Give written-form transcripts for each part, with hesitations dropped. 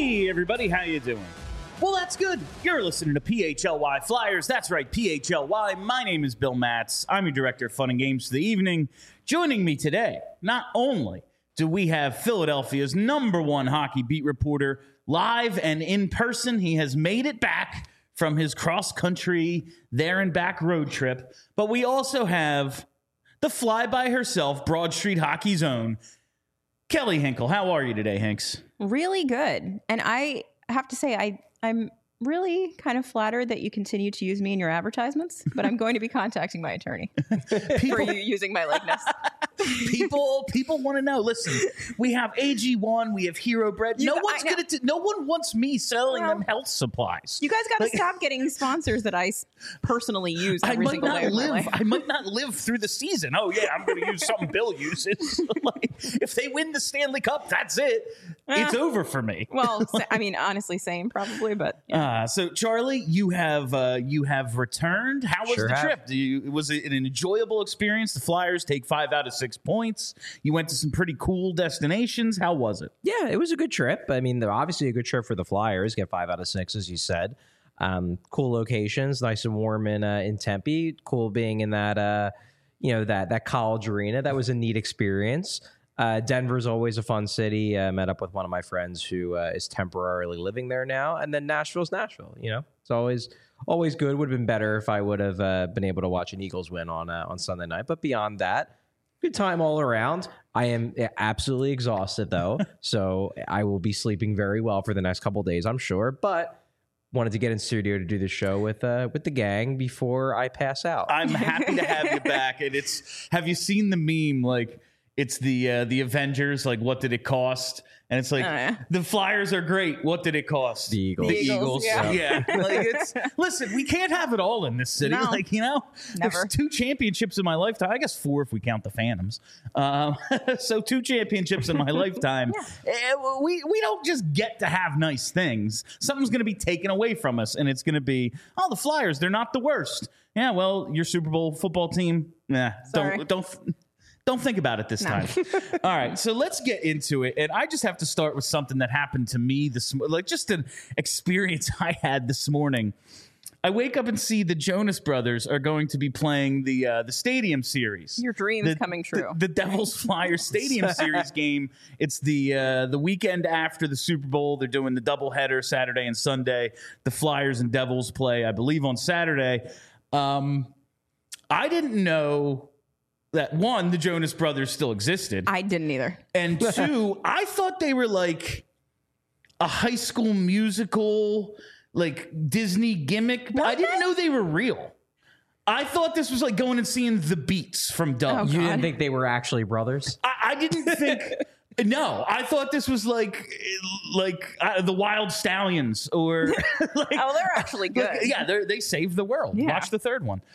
Hey, everybody, how you doing? Well, that's good. You're listening to PHLY Flyers. That's right, PHLY. My name is Bill Matz. I'm your director of fun and games for the evening. Joining me today, not only do we have Philadelphia's #1 hockey beat reporter live and in person, he has made it back from his cross-country there and back road trip, but we also have the fly-by herself, Broad Street Hockey's own, Kelly Hinkle. How are you today, Hinks? Really good. And I have to say, I'm really kind of flattered that you continue to use me in your advertisements, but I'm going to be contacting my attorney for you using my likeness. People want to know. Listen, we have AG1, we have Hero Bread. No one wants me selling them health supplies. You guys got to stop getting sponsors that I personally use every single day of my life. I might not live through the season. Oh yeah, I'm going to use something Bill uses. Like, if they win the Stanley Cup, that's it. It's over for me. Well, I mean, honestly, same probably, but yeah. So Charlie, you have returned. How was the trip? Was it an enjoyable experience? The Flyers take 5 out of 6 points. You went to some pretty cool destinations. How was it? Yeah, it was a good trip. I mean, they're obviously a good trip for the Flyers. Get 5 out of 6, as you said. Cool locations, nice and warm in Tempe. Cool being in that that college arena. That was a neat experience. Denver's always a fun city. Met up with one of my friends who is temporarily living there now. And then Nashville's Nashville. You know, it's always good. Would have been better if I would have been able to watch an Eagles win on Sunday night. But beyond that, good time all around. I am absolutely exhausted, though. So I will be sleeping very well for the next couple of days, I'm sure. But wanted to get in studio to do the show with the gang before I pass out. I'm happy to have you back. And have you seen the meme? Like, it's the Avengers, like, what did it cost? And it's like, the Flyers are great. What did it cost? The Eagles. The Eagles. Yeah. Like, listen, we can't have it all in this city. No. Like, you know, Never. There's 2 championships in my lifetime. I guess 4 if we count the Phantoms. So 2 championships in my lifetime. We don't just get to have nice things. Something's going to be taken away from us, and it's going to be, the Flyers, they're not the worst. Yeah, well, your Super Bowl football team, don't think about it this time. All right, so let's get into it. And I just have to start with something that happened to me just an experience I had this morning. I wake up and see the Jonas Brothers are going to be playing the Stadium Series. Your dream's coming true. The Devils Flyers Stadium Series game. It's the weekend after the Super Bowl. They're doing the doubleheader Saturday and Sunday. The Flyers and Devils play, I believe, on Saturday. I didn't know that, 1, the Jonas Brothers still existed. I didn't either. And 2, I thought they were like a High School Musical, like Disney gimmick. I didn't know they were real. I thought this was like going and seeing the Beats from Doug. You didn't think they were actually brothers? I didn't think... No, I thought this was like the Wild Stallions, or they're actually good. They saved the world. Yeah. Watch the 3rd one.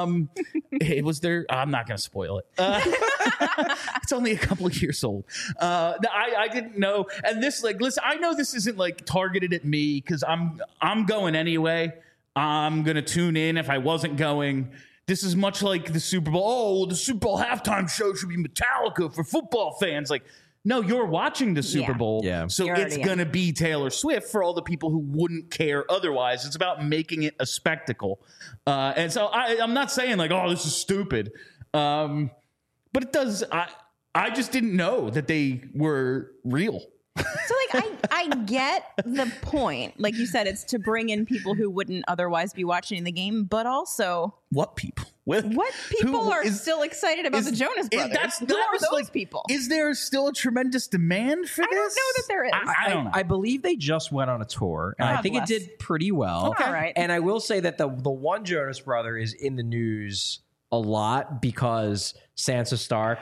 It was their. I'm not going to spoil it. It's only a couple of years old. I didn't know, and this listen. I know this isn't like targeted at me because I'm going anyway. I'm going to tune in if I wasn't going. This is much like the Super Bowl. Oh, the Super Bowl halftime show should be Metallica for football fans. Like, no, you're watching the Super Bowl. Yeah. So it's going to be Taylor Swift for all the people who wouldn't care otherwise. It's about making it a spectacle. And so I'm not saying like, oh, this is stupid. But it does. I just didn't know that they were real. So, I get the point. Like you said, it's to bring in people who wouldn't otherwise be watching the game, but also... What people? What people are still excited about the Jonas Brothers? Who are those people? Is there still a tremendous demand for this? I don't know that there is. I don't know. I believe they just went on a tour, and I think it did pretty well. Okay. All right. And I will say that the one Jonas brother is in the news a lot because Sansa Stark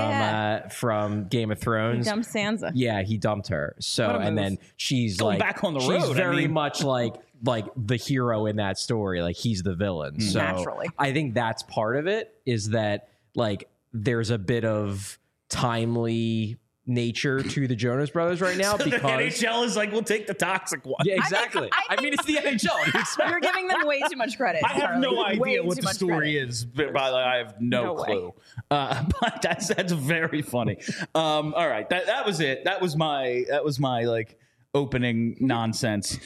from Game of Thrones. He dumped Sansa. Yeah, he dumped her. So and then she's going back on the road. She's very much like the hero in that story. Like, he's the villain. So naturally, I think that's part of it, is that like there's a bit of timely nature to the Jonas Brothers right now, so because the NHL is like, we'll take the toxic one. Yeah, exactly. I mean, it's the NHL. You're giving them way too much credit. I have no idea what the story is, but I have no clue. But that's very funny. All right, that was it. That was my like, opening nonsense.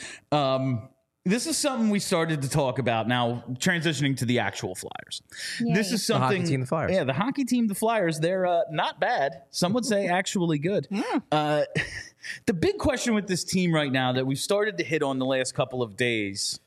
This is something we started to talk about now, transitioning to the actual Flyers. Yay. This is something. The hockey team, the Flyers. Yeah, the hockey team, the Flyers, they're not bad. Some would say actually good. The big question with this team right now that we've started to hit on the last couple of days,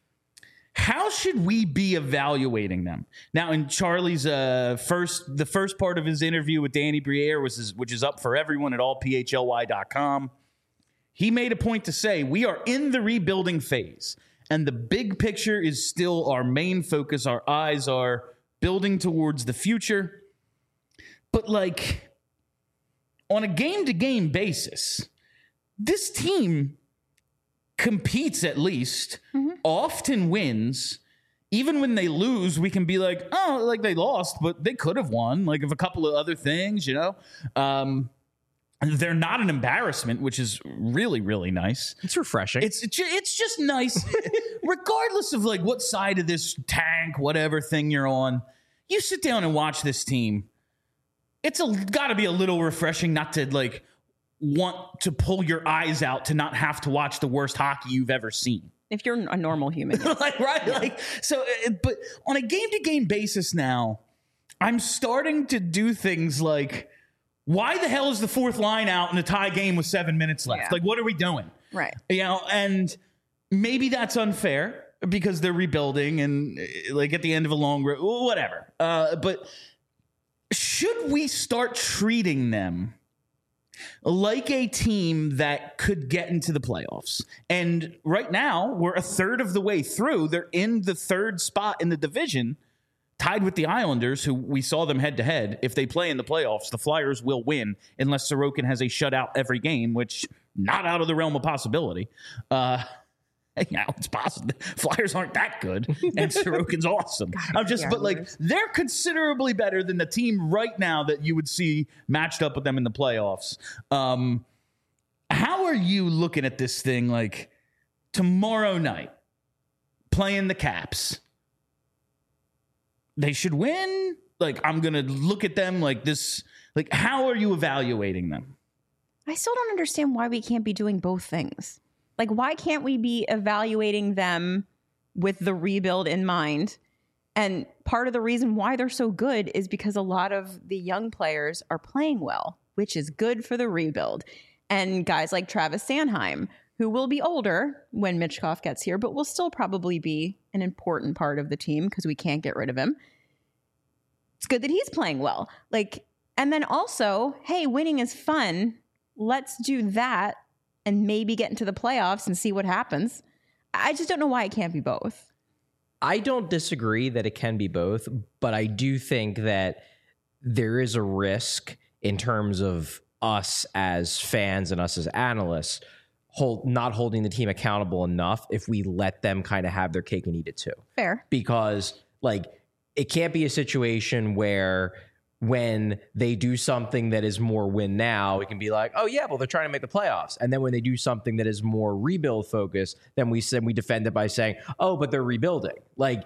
how should we be evaluating them? Now, in Charlie's the first part of his interview with Danny Briere, which is up for everyone at allphly.com, he made a point to say, we are in the rebuilding phase, and the big picture is still our main focus. Our eyes are building towards the future. But, like, on a game-to-game basis, this team competes at least, often wins. Even when they lose, we can be like, oh, like they lost, but they could have won. Like, of a couple of other things, you know? They're not an embarrassment, which is really, really nice. It's refreshing. It's just nice. Regardless of like what side of this tank, whatever thing you're on, you sit down and watch this team. It's got to be a little refreshing not to like want to pull your eyes out to not have to watch the worst hockey you've ever seen. If you're a normal human. Like, right? Yeah. Like, so, but on a game-to-game basis now, I'm starting to do things like, why the hell is the fourth line out in a tie game with 7 minutes left? Yeah. Like, what are we doing? Right. You know, and maybe that's unfair because they're rebuilding and like at the end of a long road, whatever. But should we start treating them like a team that could get into the playoffs? And right now, we're a third of the way through. They're in the third spot in the division, tied with the Islanders, who we saw them head-to-head. If they play in the playoffs, the Flyers will win unless Sorokin has a shutout every game, which not out of the realm of possibility. It's possible. Flyers aren't that good, and Sorokin's awesome. But like, they're considerably better than the team right now that you would see matched up with them in the playoffs. How are you looking at this thing? Like tomorrow night, playing the Caps, they should win. Like, I'm gonna look at them like this. Like, how are you evaluating them? I still don't understand why we can't be doing both things. Like, why can't we be evaluating them with the rebuild in mind? And part of the reason why they're so good is because a lot of the young players are playing well, which is good for the rebuild. And guys like Travis Sanheim, who will be older when Michkov gets here, but will still probably be an important part of the team because we can't get rid of him. It's good that he's playing well. Like, and then also, hey, winning is fun. Let's do that and maybe get into the playoffs and see what happens. I just don't know why it can't be both. I don't disagree that it can be both, but I do think that there is a risk in terms of us as fans and us as analysts not holding the team accountable enough if we let them kind of have their cake and eat it too. Fair. Because like, it can't be a situation where when they do something that is more win now, we can be like, oh yeah, well, they're trying to make the playoffs. And then when they do something that is more rebuild focused, then we defend it by saying, oh, but they're rebuilding. Like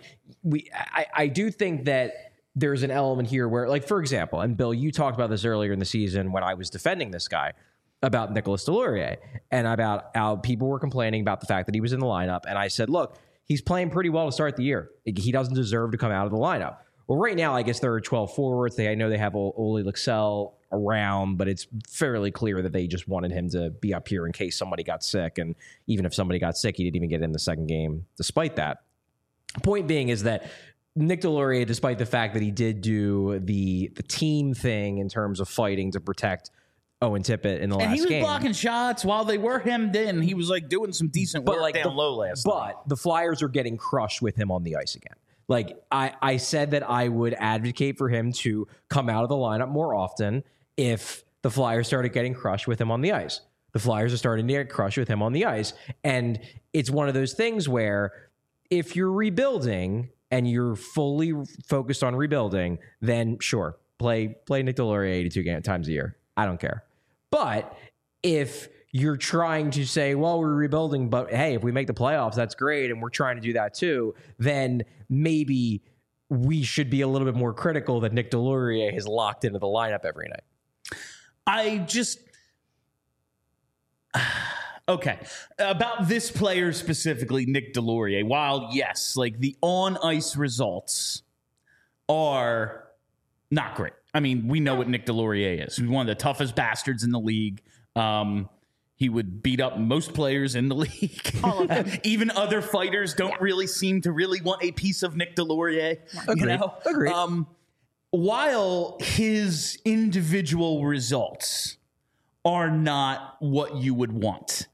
I do think that there's an element here where, like, for example, and Bill, you talked about this earlier in the season when I was defending this guy about Nicolas Deslauriers and about how people were complaining about the fact that he was in the lineup. And I said, look, he's playing pretty well to start the year. He doesn't deserve to come out of the lineup. Well, right now, I guess there are 12 forwards. I know they have Ole Lycksell around, but it's fairly clear that they just wanted him to be up here in case somebody got sick. And even if somebody got sick, he didn't even get in the second game despite that. Point being is that Nick Deslauriers, despite the fact that he did do the team thing in terms of fighting to protect Owen Tippett in the last game. And he was blocking shots while they were hemmed in. He was like doing some decent work down low last night. But the Flyers are getting crushed with him on the ice again. Like, I said that I would advocate for him to come out of the lineup more often if the Flyers started getting crushed with him on the ice. The Flyers are starting to get crushed with him on the ice. And it's one of those things where if you're rebuilding and you're fully focused on rebuilding, then sure, play Nick Deslauriers 82 times a year. I don't care. But if you're trying to say, well, we're rebuilding, but hey, if we make the playoffs, that's great, and we're trying to do that too, then maybe we should be a little bit more critical that Nick Deslauriers is locked into the lineup every night. Okay. About this player specifically, Nick Delorier, while yes, like the on-ice results are not great. I mean, we know what Nick Delorier is. He's one of the toughest bastards in the league. He would beat up most players in the league. All of them. Even other fighters don't really seem to really want a piece of Nick Delorier. Agreed. While his individual results are not what you would want,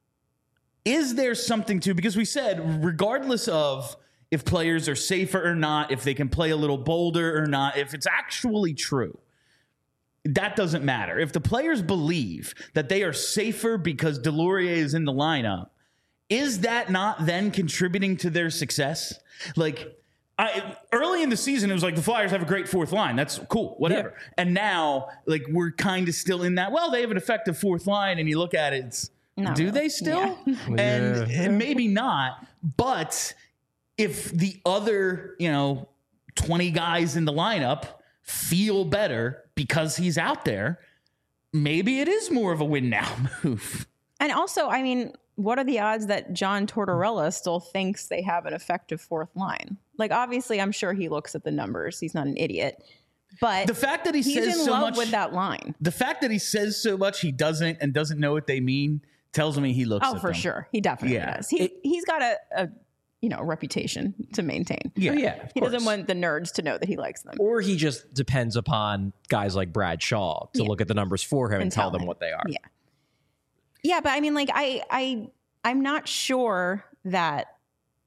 is there something to, because we said regardless of if players are safer or not, if they can play a little bolder or not, if it's actually true, that doesn't matter. If the players believe that they are safer because Delorier is in the lineup, is that not then contributing to their success? Like, early in the season, it was like the Flyers have a great fourth line. That's cool, whatever. Yeah. And now, like, we're kind of still in that, well, they have an effective fourth line, and you look at it, it's, do they still? Yeah. And maybe not, but if the other, 20 guys in the lineup feel better because he's out there, maybe it is more of a win now move. And also, I mean, what are the odds that John Tortorella still thinks they have an effective fourth line? Like, obviously, I'm sure he looks at the numbers. He's not an idiot. But the fact that he's in so love much with that line. The fact that he says so much he doesn't know what they mean tells me he looks at for them. Sure. He definitely does. He's got a reputation to maintain. Yeah. He doesn't want the nerds to know that he likes them. Or he just depends upon guys like Brad Shaw to look at the numbers for him and tell them what they are. Yeah. Yeah, but I mean, like, I'm not sure that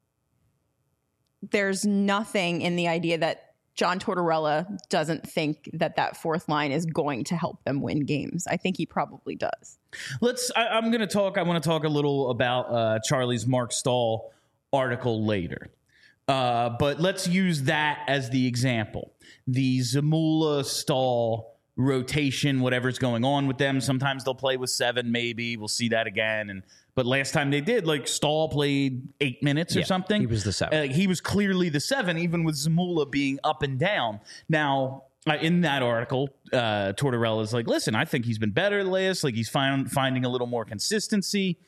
there's nothing in the idea that John Tortorella doesn't think that fourth line is going to help them win games. I think he probably does. I want to talk a little about Charlie's Mark Stahl article later. But let's use that as the example. The Zamula Stahl rotation, whatever's going on with them. Sometimes they'll play with 7, maybe. We'll see that again. But last time they did, like, Stahl played 8 minutes or something. He was the 7. He was clearly the 7, even with Zamula being up and down. Now, in that article, Tortorella's like, listen, I think he's been better last. Like, he's finding a little more consistency.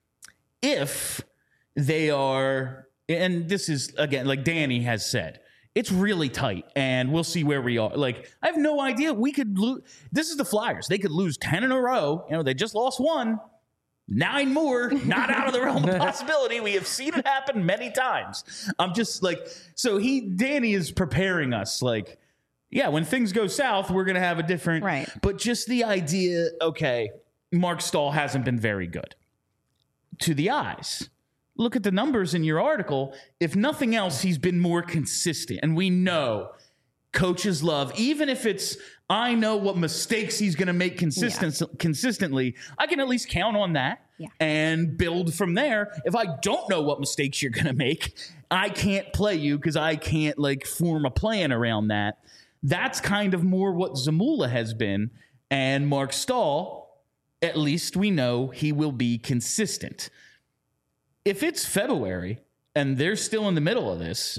If they are, and this is, again, like Danny has said, it's really tight, and we'll see where we are. Like, I have no idea. We could lose. This is the Flyers. They could lose 10 in a row. They just lost 1. 9 more, not out of the realm of possibility. We have seen it happen many times. I'm just like, so Danny is preparing us. Like, yeah, when things go south, we're going to have a different. Right. But just the idea, okay, Mark Stahl hasn't been very good to the eyes. Look at the numbers in your article. If nothing else, he's been more consistent. And we know coaches love, even if it's, I know what mistakes he's going to make consistently, I can at least count on that and build from there. If I don't know what mistakes you're going to make, I can't play you because I can't, like, form a plan around that. That's kind of more what Zamula has been. And Mark Stahl, at least we know he will be consistent. If it's February and they're still in the middle of this,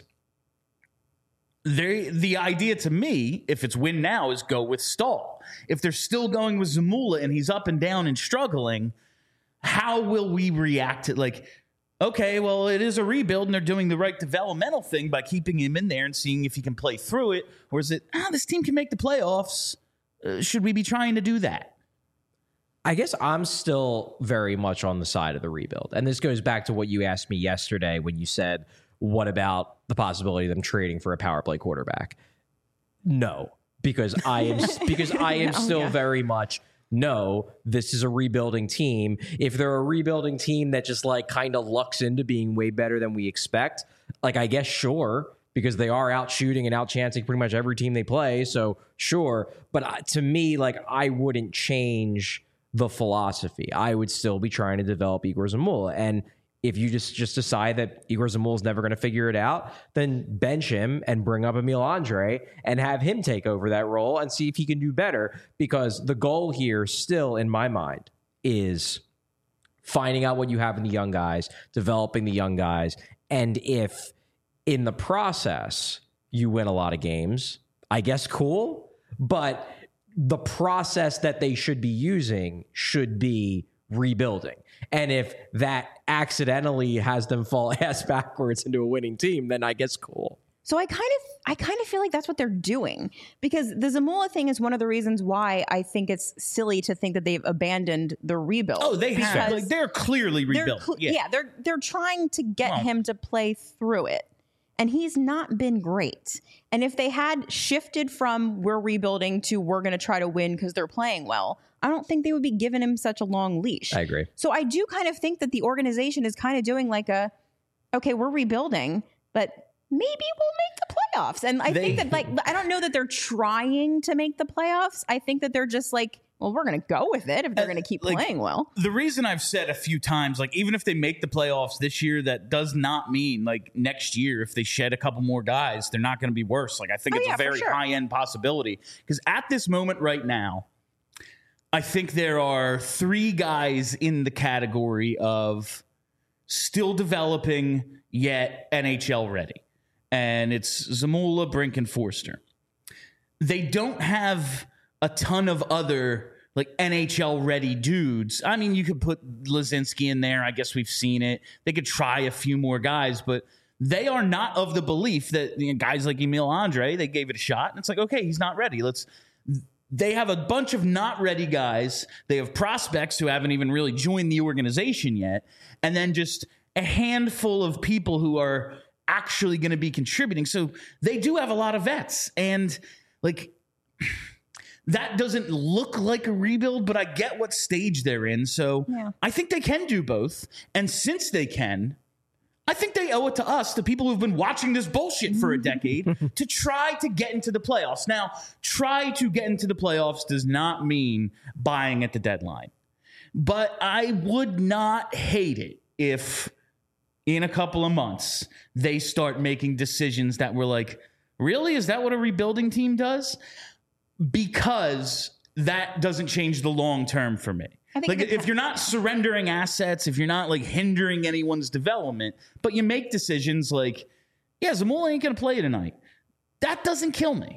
the idea to me, if it's win now, is go with Stahl. If they're still going with Zamula and he's up and down and struggling, how will we react to, like, okay, well, it is a rebuild and they're doing the right developmental thing by keeping him in there and seeing if he can play through it? Or is it, this team can make the playoffs? Should we be trying to do that? I guess I'm still very much on the side of the rebuild. And this goes back to what you asked me yesterday when you said, what about the possibility of them trading for a power play quarterback? No, because I am still very much, no, this is a rebuilding team. If they're a rebuilding team that just, like, kind of lucks into being way better than we expect, like, I guess sure, because they are out shooting and out chancing pretty much every team they play. So sure. But to me, like, I wouldn't change the philosophy. I would still be trying to develop Igor Zamula. And if you just decide that Igor Zamula is never going to figure it out, then bench him and bring up Emil Andre and have him take over that role and see if he can do better. Because the goal here still, in my mind, is finding out what you have in the young guys, developing the young guys. And if in the process you win a lot of games, I guess cool. But the process that they should be using should be rebuilding. And if that accidentally has them fall ass backwards into a winning team, then I guess cool. So I kind of feel like that's what they're doing, because the Zamula thing is one of the reasons why I think it's silly to think that they've abandoned the rebuild. Oh, they have. Like, they're clearly rebuilt. They're trying to get him to play through it. And he's not been great. And if they had shifted from we're rebuilding to we're going to try to win because they're playing well, I don't think they would be giving him such a long leash. I agree. So I do kind of think that the organization is kind of doing like okay, we're rebuilding, but maybe we'll make the playoffs. And I think that, like, I don't know that they're trying to make the playoffs. I think that they're just like, well, we're going to go with it if they're going to keep playing well. The reason I've said a few times, like, even if they make the playoffs this year, that does not mean, like, next year, if they shed a couple more guys, they're not going to be worse. Like, I think it's a very high-end possibility. Because at this moment right now, I think there are 3 guys in the category of still developing, yet NHL ready. And it's Zamula, Brink, and Forster. They don't have a ton of other, like, NHL ready dudes. I mean, you could put Lazinski in there. I guess we've seen it. They could try a few more guys, but they are not of the belief that, you know, guys like Emil Andre, they gave it a shot, and it's like, okay, he's not ready. They have a bunch of not ready guys. They have prospects who haven't even really joined the organization yet, and then just a handful of people who are actually going to be contributing. So they do have a lot of vets, and, like, that doesn't look like a rebuild, but I get what stage they're in. So I think they can do both. And since they can, I think they owe it to us, the people who've been watching this bullshit for a decade, to try to get into the playoffs. Now, try to get into the playoffs does not mean buying at the deadline. But I would not hate it if in a couple of months they start making decisions that were like, really? Is that what a rebuilding team does? Because that doesn't change the long term for me. Like, if you're not surrendering assets, if you're not, like, hindering anyone's development, but you make decisions like, yeah, Zamula ain't going to play tonight, that doesn't kill me.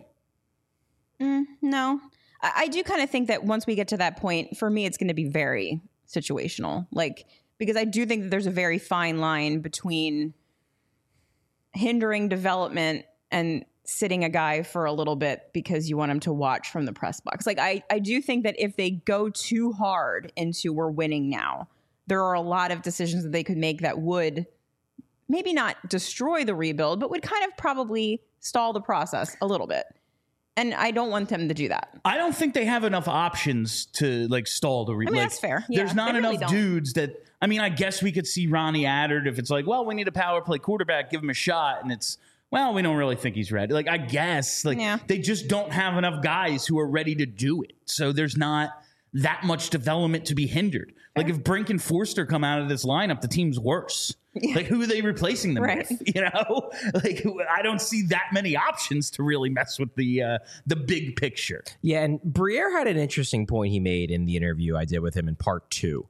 No. I do kind of think that once we get to that point, for me, it's going to be very situational. Like, because I do think that there's a very fine line between hindering development and sitting a guy for a little bit because you want him to watch from the press box. Like, I do think that if they go too hard into we're winning now, there are a lot of decisions that they could make that would maybe not destroy the rebuild, but would kind of probably stall the process a little bit. And I don't want them to do that. I don't think they have enough options to, like, stall the rebuild. I mean, that's fair. There's not enough dudes that, I mean, I guess we could see Ronnie Attard if it's like, well, we need a power play quarterback, give him a shot, and it's, well, we don't really think he's ready. Like, I guess, like, they just don't have enough guys who are ready to do it. So there's not that much development to be hindered. Like, if Brink and Forster come out of this lineup, the team's worse. Like, who are they replacing them with? You know, like, I don't see that many options to really mess with the big picture. Yeah, and Briere had an interesting point he made in the interview I did with him in part 2,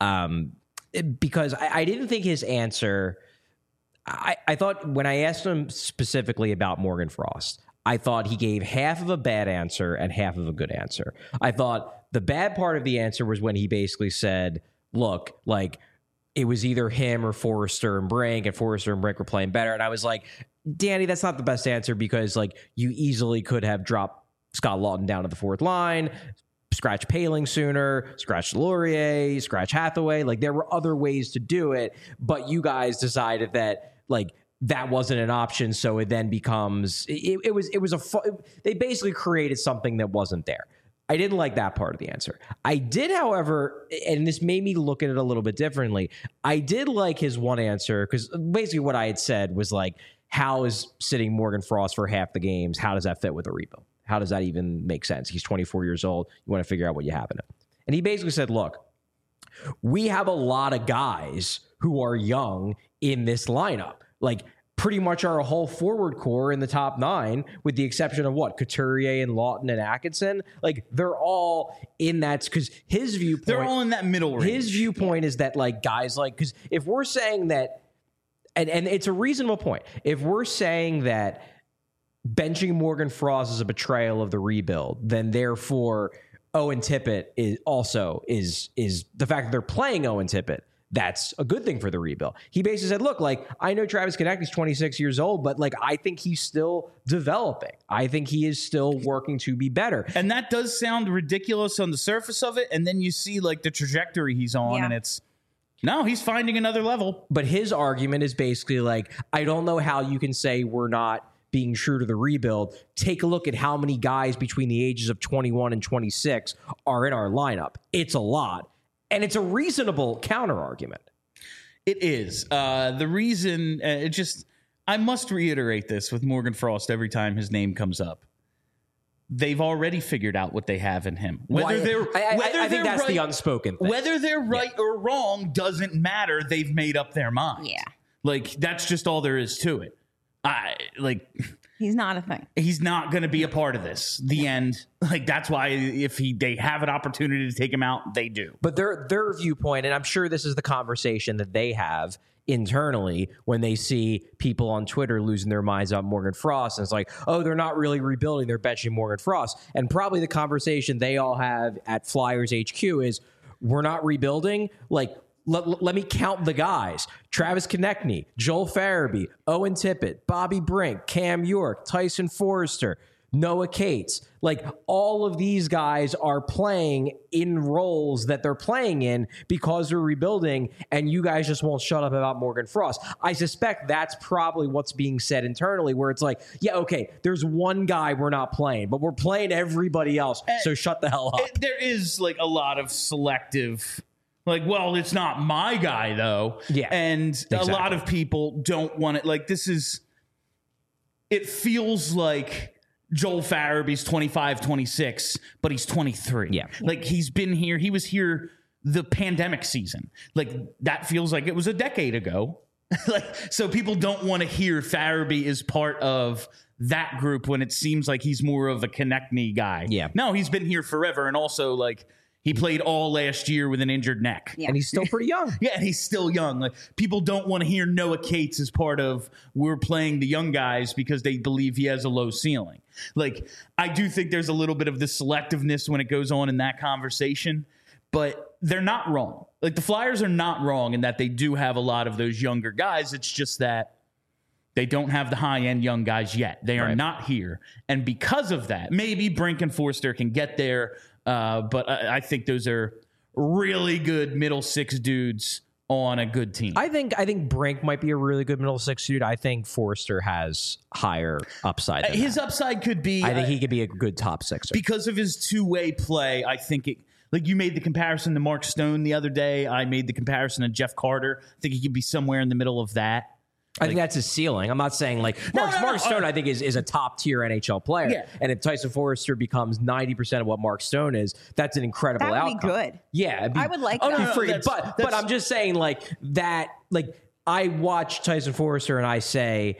because I didn't think his answer. I thought when I asked him specifically about Morgan Frost, I thought he gave half of a bad answer and half of a good answer. I thought the bad part of the answer was when he basically said, look, like, it was either him or Forster and Brink, and Forster and Brink were playing better. And I was like, Danny, that's not the best answer, because, like, you easily could have dropped Scott Lawton down to the 4th line, scratch Paling sooner, scratch Laurier, scratch Hathaway. Like, there were other ways to do it, but you guys decided that, like, that wasn't an option. So it then becomes, they basically created something that wasn't there. I didn't like that part of the answer. I did, however, and this made me look at it a little bit differently. I did like his one answer, because basically what I had said was, like, how is sitting Morgan Frost for half the games? How does that fit with a rebuild? How does that even make sense? He's 24 years old. You want to figure out what you have in him. And he basically said, look, we have a lot of guys who are young in this lineup. Like, pretty much our whole forward core in the top 9, with the exception of Couturier and Lawton and Atkinson. Like, they're all in that, because his viewpoint, they're all in that middle range. His viewpoint is that, like, guys, like, because if we're saying that, and it's a reasonable point, if we're saying that benching Morgan Frost is a betrayal of the rebuild, then therefore Owen Tippett is the fact that they're playing Owen Tippett. That's a good thing for the rebuild. He basically said, look, like, I know Travis Konecny's 26 years old, but like, I think he's still developing. I think he is still working to be better. And that does sound ridiculous on the surface of it. And then you see like the trajectory he's on, and it's, no, he's finding another level. But his argument is basically like, I don't know how you can say we're not being true to the rebuild. Take a look at how many guys between the ages of 21 and 26 are in our lineup. It's a lot. And it's a reasonable counter argument. It is. The reason, I must reiterate this with Morgan Frost every time his name comes up. They've already figured out what they have in him. I think that's the unspoken thing. Whether they're right or wrong doesn't matter. They've made up their mind. Yeah. Like, that's just all there is to it. He's not a thing. He's not going to be a part of this. The end. Like, that's why if they have an opportunity to take him out, they do. But their viewpoint, and I'm sure this is the conversation that they have internally when they see people on Twitter losing their minds about Morgan Frost. And it's like, oh, they're not really rebuilding. They're benching Morgan Frost. And probably the conversation they all have at Flyers HQ is, we're not rebuilding. Like, let me count the guys. Travis Konecny, Joel Farabee, Owen Tippett, Bobby Brink, Cam York, Tyson Forrester, Noah Cates. Like, all of these guys are playing in roles that they're playing in because they're rebuilding, and you guys just won't shut up about Morgan Frost. I suspect that's probably what's being said internally, where it's like, yeah, okay, there's one guy we're not playing, but we're playing everybody else, so shut the hell up. There is, like, a lot of selective... Like, well, it's not my guy, though. Yeah. And exactly. A lot of people don't want it. Like, it feels like Joel Farabee's 25, 26, but he's 23. Yeah. Like, he's been here. He was here the pandemic season. Like, that feels like it was a decade ago. So people don't want to hear Farabee is part of that group when it seems like he's more of a Konecny guy. Yeah. No, he's been here forever. And also, like, he played all last year with an injured neck. Yeah. And he's still pretty young. Yeah, and he's still young. Like, people don't want to hear Noah Cates as part of we're playing the young guys because they believe he has a low ceiling. Like, I do think there's a little bit of this selectiveness when it goes on in that conversation, but they're not wrong. Like, the Flyers are not wrong in that they do have a lot of those younger guys. It's just that they don't have the high-end young guys yet. They are not here. And because of that, maybe Brink and Forster can get there. But I think those are really good middle six dudes on a good team. I think Brink might be a really good middle six dude. I think Forster has higher upside. His upside could be. I think he could be a good top sixer because of his two-way play. I think it. Like, you made the comparison to Mark Stone the other day. I made the comparison to Jeff Carter. I think he could be somewhere in the middle of that. I think that's his ceiling. I'm not saying like Mark Stone, I think is a top tier NHL player. Yeah. And if Tyson Forrester becomes 90% of what Mark Stone is, that's an incredible outcome. That would be good. Yeah. I would like that. But I'm just saying like that, like I watch Tyson Forrester and I say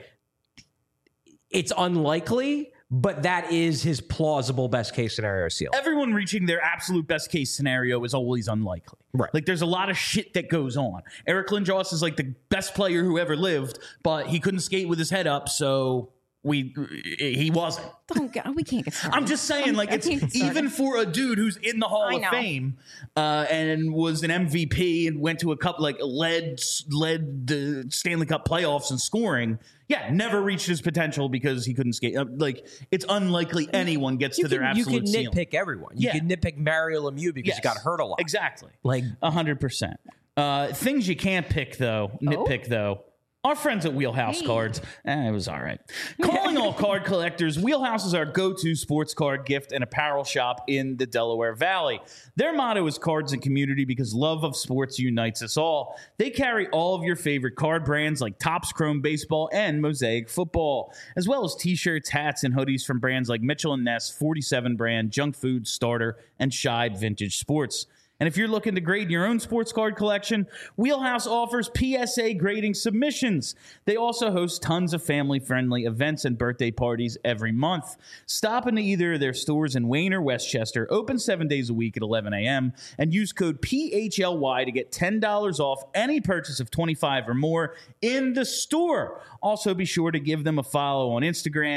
it's unlikely, but that is his plausible best case scenario ceiling. Everyone reaching their absolute best case scenario is always unlikely. Right. Like, there's a lot of shit that goes on. Eric Lindros is like the best player who ever lived, but he couldn't skate with his head up, so he wasn't. We can't get started. I'm just saying, like, it's even for a dude who's in the Hall of Fame and was an MVP and went to a couple, like, led the Stanley Cup playoffs in scoring. Yeah, never reached his potential because he couldn't skate. Like, it's unlikely anyone gets to their absolute ceiling. You can nitpick everyone. You can nitpick Mario Lemieux because he got hurt a lot. Exactly. Like 100%. Things you can't pick, though, nitpick, though. Our friends at Wheelhouse Cards. It was all right. Calling all card collectors, Wheelhouse is our go-to sports card gift and apparel shop in the Delaware Valley. Their motto is cards and community because love of sports unites us all. They carry all of your favorite card brands like Topps Chrome Baseball and Mosaic Football, as well as t-shirts, hats, and hoodies from brands like Mitchell & Ness, 47 Brand, Junk Food, Starter, and Scheid Vintage Sports. And if you're looking to grade your own sports card collection, Wheelhouse offers PSA grading submissions. They also host tons of family-friendly events and birthday parties every month. Stop into either of their stores in Wayne or Westchester, open 7 days a week at 11 a.m., and use code PHLY to get $10 off any purchase of $25 or more in the store. Also, be sure to give them a follow on Instagram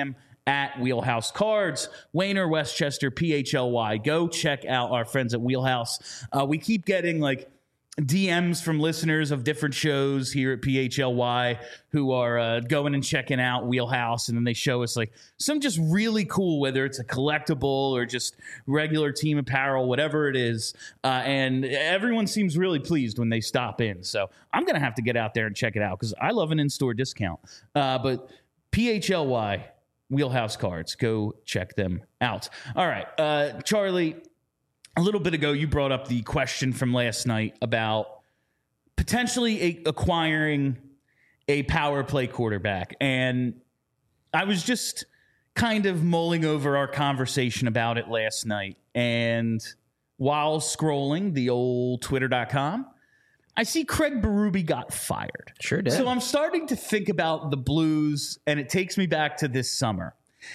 at Wheelhouse Cards. Wayner, Westchester, PHLY. Go check out our friends at Wheelhouse. We keep getting like DMs from listeners of different shows here at PHLY who are going and checking out Wheelhouse, and then they show us like some just really cool, whether it's a collectible or just regular team apparel, whatever it is, and everyone seems really pleased when they stop in. So I'm gonna have to get out there and check it out because I love an in-store discount. But PHLY, Wheelhouse Cards, go check them out. All right, Charlie, a little bit ago, you brought up the question from last night about potentially acquiring a power play quarterback. And I was just kind of mulling over our conversation about it last night. And while scrolling the old twitter.com, I see Craig Berube got fired. Sure did. So I'm starting to think about the Blues, and it takes me back to this summer.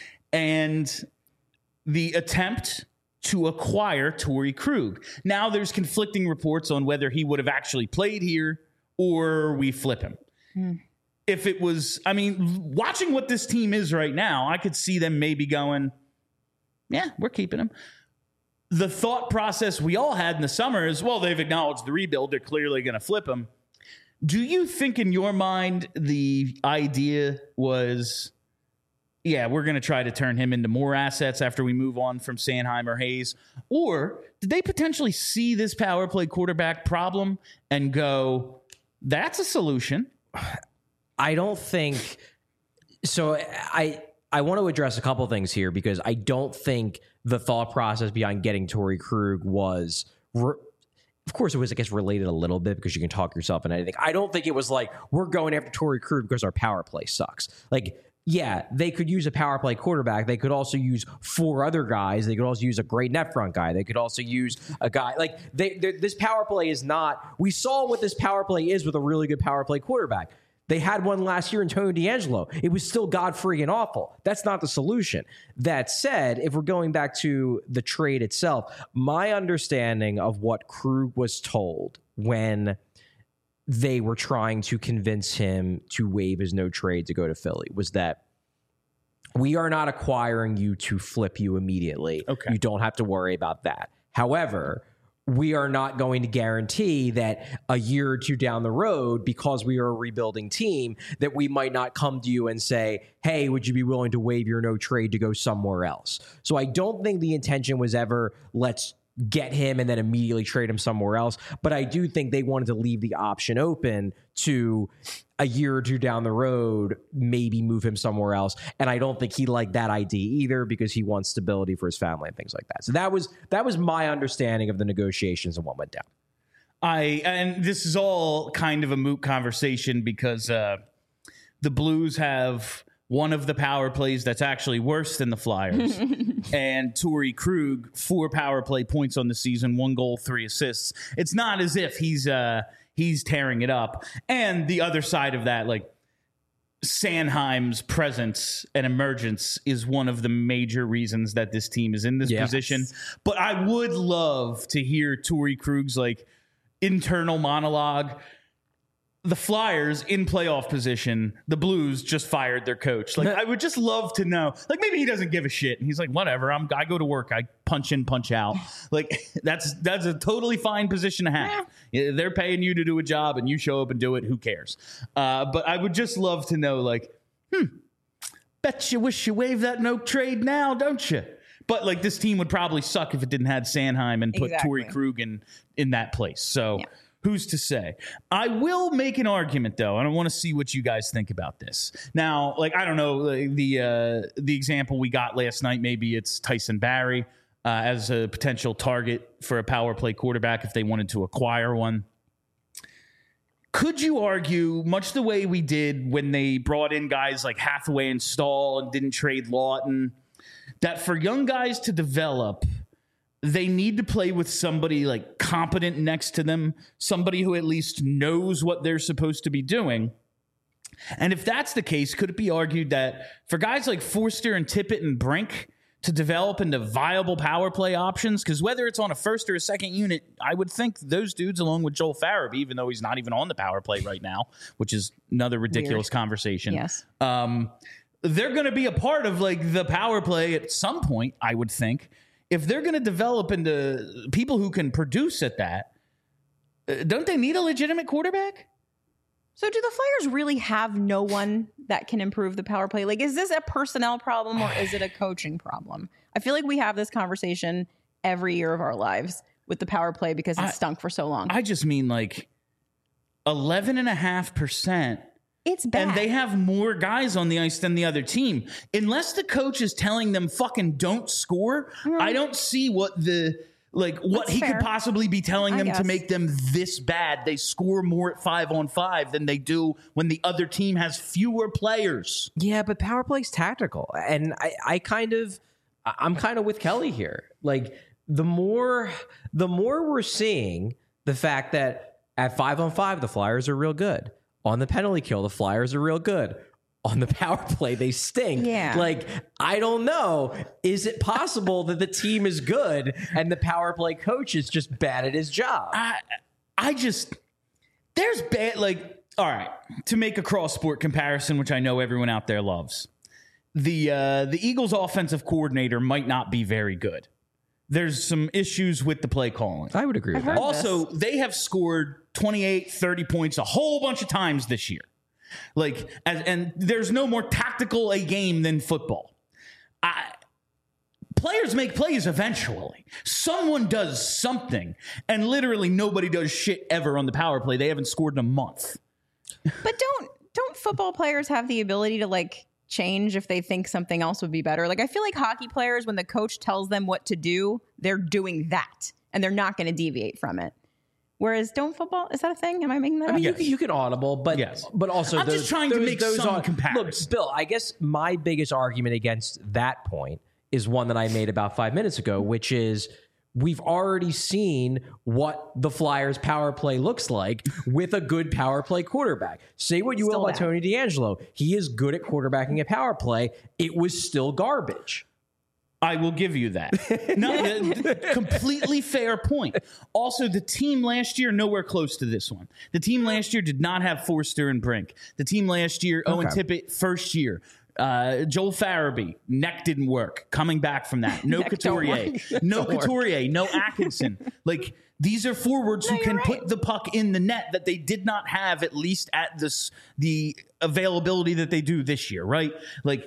And the attempt to acquire Torrey Krug. Now there's conflicting reports on whether he would have actually played here or we flip him. If it was, I mean, watching what this team is right now, I could see them maybe going, yeah, we're keeping him. The thought process we all had in the summer is, well, they've acknowledged the rebuild. They're clearly going to flip him. Do you think in your mind the idea was, yeah, we're going to try to turn him into more assets after we move on from Sanheim or Hayes? Or did they potentially see this power play quarterback problem and go, that's a solution? I don't think so. I want to address a couple things here because I don't think the thought process behind getting Torrey Krug was, of course, it was, I guess, related a little bit because you can talk yourself into anything. I don't think it was like, we're going after Torrey Krug because our power play sucks. Like, yeah, they could use a power play quarterback. They could also use 4 other guys. They could also use a great net front guy. They could also use a guy like this power play is not. We saw what this power play is with a really good power play quarterback. They had one last year in Tony D'Angelo. It was still god-freaking awful. That's not the solution. That said, if we're going back to the trade itself, my understanding of what Krug was told when they were trying to convince him to waive his no trade to go to Philly was that we are not acquiring you to flip you immediately. Okay. You don't have to worry about that. However, we are not going to guarantee that a year or two down the road, because we are a rebuilding team, that we might not come to you and say, hey, would you be willing to waive your no trade to go somewhere else? So I don't think the intention was ever, let's get him and then immediately trade him somewhere else. But I do think they wanted to leave the option open to a year or two down the road, maybe move him somewhere else. And I don't think he liked that idea either because he wants stability for his family and things like that. So that was my understanding of the negotiations and what went down. And this is all kind of a moot conversation because the Blues have one of the power plays that's actually worse than the Flyers. And Torrey Krug, 4 power play points on the season, 1 goal, 3 assists. It's not as if he's tearing it up. And the other side of that, like Sanheim's presence and emergence is one of the major reasons that this team is in this position. But I would love to hear Torrey Krug's like internal monologue. The Flyers in playoff position, the Blues just fired their coach. Like, I would just love to know. Like, maybe he doesn't give a shit. And he's like, whatever. I go to work. I punch in, punch out. Like, that's a totally fine position to have. They're paying you to do a job, and you show up and do it. Who cares? But I would just love to know, like, bet you wish you waived that no trade now, don't you? But, like, this team would probably suck if it didn't have Sanheim and put Torrey Krug in that place. So... yeah. Who's to say? I will make an argument, though, and I want to see what you guys think about this. Now, like, I don't know, the example we got last night, maybe it's Tyson Barrie as a potential target for a power play quarterback if they wanted to acquire one. Could you argue, much the way we did when they brought in guys like Hathaway and Stahl and didn't trade Lawton, that for young guys to develop, they need to play with somebody like competent next to them, somebody who at least knows what they're supposed to be doing. And if that's the case, could it be argued that for guys like Forster and Tippett and Brink to develop into viable power play options, because whether it's on a first or a second unit, I would think those dudes, along with Joel Farabee, even though he's not even on the power play right now, which is another ridiculous conversation. Yes. they're going to be a part of like the power play at some point, I would think. If they're going to develop into people who can produce at that, don't they need a legitimate quarterback? So do the Flyers really have no one that can improve the power play? Like, is this a personnel problem or is it a coaching problem? I feel like we have this conversation every year of our lives with the power play because it stunk for so long. I just mean like 11.5%. It's bad. And they have more guys on the ice than the other team. Unless the coach is telling them fucking don't score, I don't see what what he could possibly be telling them to make them this bad. They score more at 5-on-5 than they do when the other team has fewer players. Yeah, but power play's tactical. And I'm kind of with Kelly here. Like the more we're seeing the fact that at 5-on-5, the Flyers are real good. On the penalty kill, the Flyers are real good. On the power play, they stink. Yeah. Like, I don't know. Is it possible that the team is good and the power play coach is just bad at his job? There's bad, like, all right, to make a cross-sport comparison, which I know everyone out there loves, the Eagles' offensive coordinator might not be very good. There's some issues with the play calling. I would agree with that. Also, they have scored 28, 30 points a whole bunch of times this year. Like, and there's no more tactical a game than football. Players make plays eventually. Someone does something, and literally nobody does shit ever on the power play. They haven't scored in a month. But don't football players have the ability to like change if they think something else would be better? Like, I feel like hockey players, when the coach tells them what to do, they're doing that, and they're not going to deviate from it. Whereas, don't football, is that a thing? Am I making that up? Yes. You can audible, but but also I'm just trying to make some comparisons. Look, Bill, I guess my biggest argument against that point is one that I made about 5 minutes ago, which is we've already seen what the Flyers power play looks like with a good power play quarterback. Say what you will about Tony DeAngelo. He is good at quarterbacking a power play. It was still garbage. I will give you that. No, completely fair point. Also, the team last year, nowhere close to this one. The team last year did not have Forster and Brink. The team last year, Owen Tippett, first year. Joel Farabee, neck didn't work. Coming back from that. No Couturier. No Couturier. No Atkinson. Like, these are forwards who can put the puck in the net that they did not have, at least at the availability that they do this year, right? Like,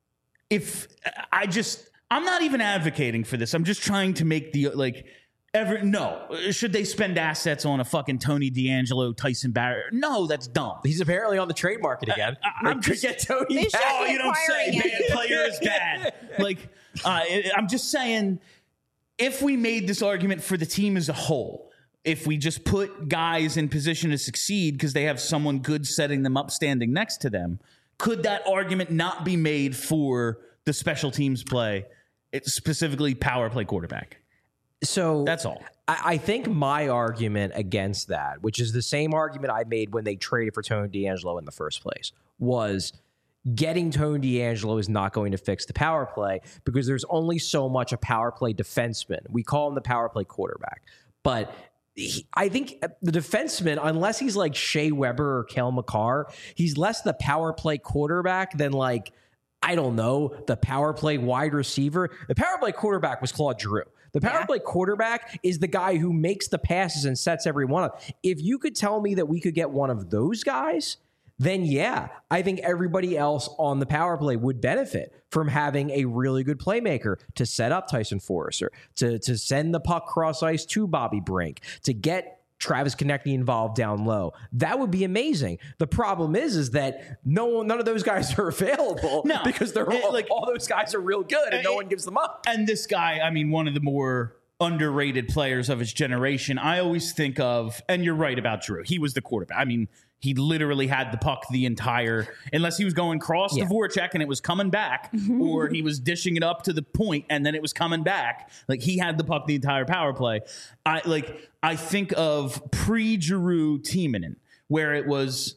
I'm not even advocating for this. I'm just trying to make should they spend assets on a fucking Tony DeAngelo, Tyson Barrett? No, that's dumb. He's apparently on the trade market again. I'm just get Tony. Oh, you don't say. Bad player is bad. Like, I'm just saying, if we made this argument for the team as a whole, if we just put guys in position to succeed because they have someone good setting them up, standing next to them, could that argument not be made for the special teams play? It's specifically power play quarterback. So that's all. I think my argument against that, which is the same argument I made when they traded for Tony DeAngelo in the first place, was getting Tony DeAngelo is not going to fix the power play because there's only so much a power play defenseman. We call him the power play quarterback. But I think the defenseman, unless he's like Shea Weber or Cale Makar, he's less the power play quarterback than like, I don't know, the power play wide receiver. The power play quarterback was Claude Giroux. The power play quarterback is the guy who makes the passes and sets everyone up. If you could tell me that we could get one of those guys, then yeah, I think everybody else on the power play would benefit from having a really good playmaker to set up Tyson Forster, to send the puck cross ice to Bobby Brink, to get Travis Konecny involved down low. That would be amazing. The problem is that none of those guys are available because they're all those guys are real good and no one gives them up. And this guy, I mean, one of the more underrated players of his generation, I always think of, and you're right about Drew. He was the quarterback. I mean, he literally had the puck the entire, unless he was going cross to Voracek and it was coming back, or he was dishing it up to the point and then it was coming back. Like, he had the puck the entire power play. I think of pre-Giroux Timonen, where it was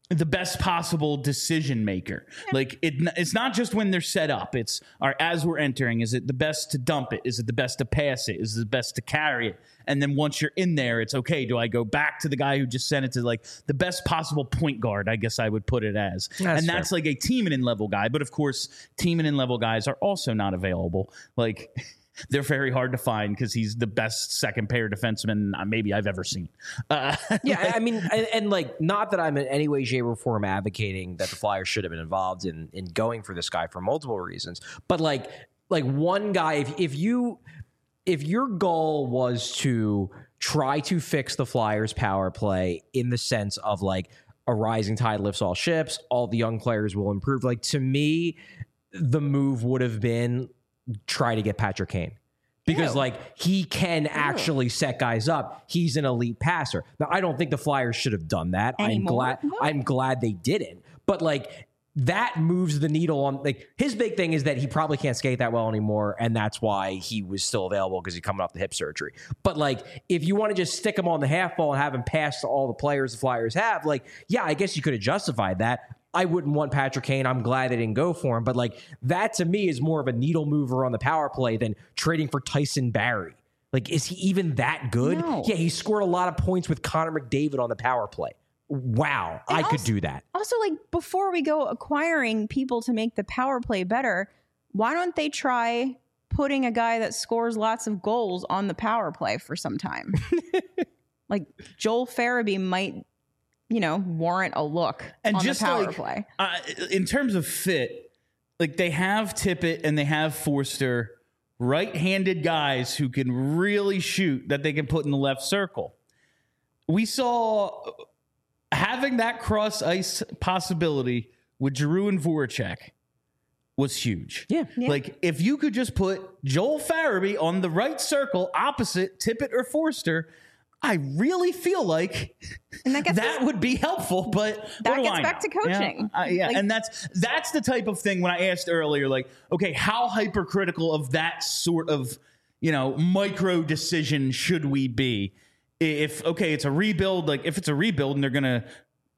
the best possible decision maker. Like it's not just when they're set up. It's as we're entering, is it the best to dump it? Is it the best to pass it? Is it the best to carry it? And then once you're in there, it's okay. Do I go back to the guy who just sent it to like the best possible point guard? I guess I would put it as. That's like a Tiemann level guy. But of course, Tiemann level guys are also not available. Like they're very hard to find because he's the best second pair defenseman maybe I've ever seen. Yeah, I mean, and like, not that I'm in any way, shape, or form advocating that the Flyers should have been involved in going for this guy for multiple reasons. But like one guy, if your goal was to try to fix the Flyers power play in the sense of like a rising tide lifts all ships, all the young players will improve. Like, to me, the move would have been try to get Patrick Kane. Because like he can actually set guys up. He's an elite passer. Now, I don't think the Flyers should have done that. I'm glad they didn't. But like that moves the needle on, like, his big thing is that he probably can't skate that well anymore, and that's why he was still available, because he's coming off the hip surgery. But like, if you want to just stick him on the half ball and have him pass to all the players the Flyers have, like, yeah, I guess you could have justified that. I wouldn't want Patrick Kane. I'm glad they didn't go for him. But like, that to me is more of a needle mover on the power play than trading for Tyson Barrie. Like, is he even that good? No. Yeah, he scored a lot of points with Connor McDavid on the power play. Wow, I could do that. Also, like, before we go acquiring people to make the power play better, why don't they try putting a guy that scores lots of goals on the power play for some time? Like, Joel Farabee might, warrant a look on just the power play. In terms of fit, like, they have Tippett and they have Forster, right-handed guys who can really shoot that they can put in the left circle. We saw having that cross-ice possibility with Giroux and Voracek was huge. Yeah. Like, if you could just put Joel Farabee on the right circle opposite Tippett or Forster, I really feel like that would be helpful, but that gets back to coaching. Yeah, and that's the type of thing when I asked earlier, like, okay, how hypercritical of that sort of, micro decision should we be? If, okay, it's a rebuild, like, if it's a rebuild and they're going to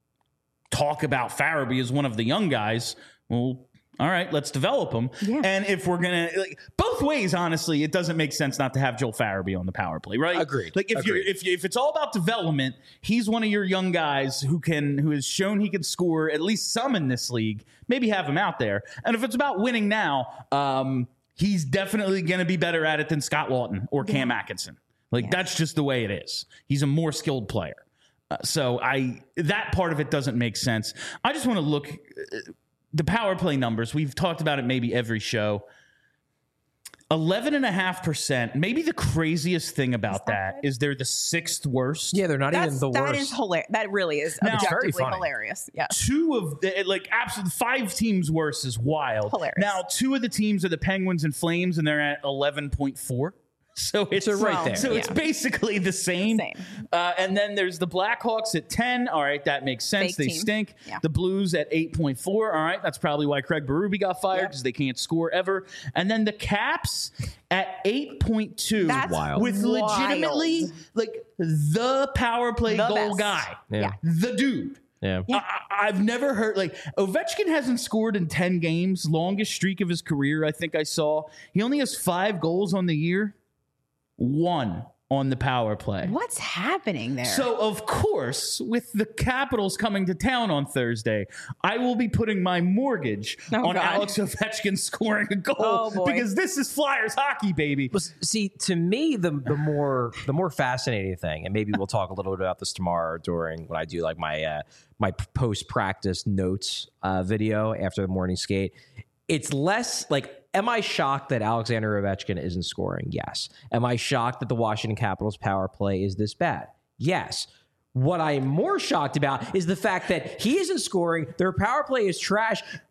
talk about Farabee as one of the young guys, well, all right, let's develop them. Yeah. And if we're going to, like, both ways, honestly, it doesn't make sense not to have Joel Farabee on the power play, right? Agreed. Like, if it's all about development, he's one of your young guys who has shown he can score at least some in this league. Maybe have him out there. And if it's about winning now, he's definitely going to be better at it than Scott Laughton or Cam Atkinson. Like, that's just the way it is. He's a more skilled player. So that part of it doesn't make sense. I just want to look the power play numbers. We've talked about it maybe every show. 11.5%. Maybe the craziest thing about that is they're the sixth worst. Yeah, they're not even the worst. That is hilarious. That really is objectively hilarious. Yeah. Two of the, like, absolutely 5 teams worse is wild. Hilarious. Now, 2 of the teams are the Penguins and Flames, and they're at 11.4. So it's right there. So it's basically the same. And then there's the Blackhawks at 10. All right, that makes sense. They stink. Yeah. The Blues at 8.4. All right, that's probably why Craig Berube got fired, because they can't score ever. And then the Caps at 8.2. That's wild. With legitimately, like, the power play goal guy. Yeah. The dude. Yeah. I've never heard, like, Ovechkin hasn't scored in 10 games, longest streak of his career, I think I saw. He only has 5 goals on the year. 1 on the power play. What's happening there? So, of course, with the Capitals coming to town on Thursday, I will be putting my mortgage on Alex Ovechkin scoring a goal, because this is Flyers hockey, baby. Well, see, to me, the more fascinating thing, and maybe we'll talk a little bit about this tomorrow during when I do like my my post practice notes video after the morning skate. It's less like, am I shocked that Alexander Ovechkin isn't scoring? Yes. Am I shocked that the Washington Capitals power play is this bad? Yes. What I'm more shocked about is the fact that he isn't scoring. Their power play is trash.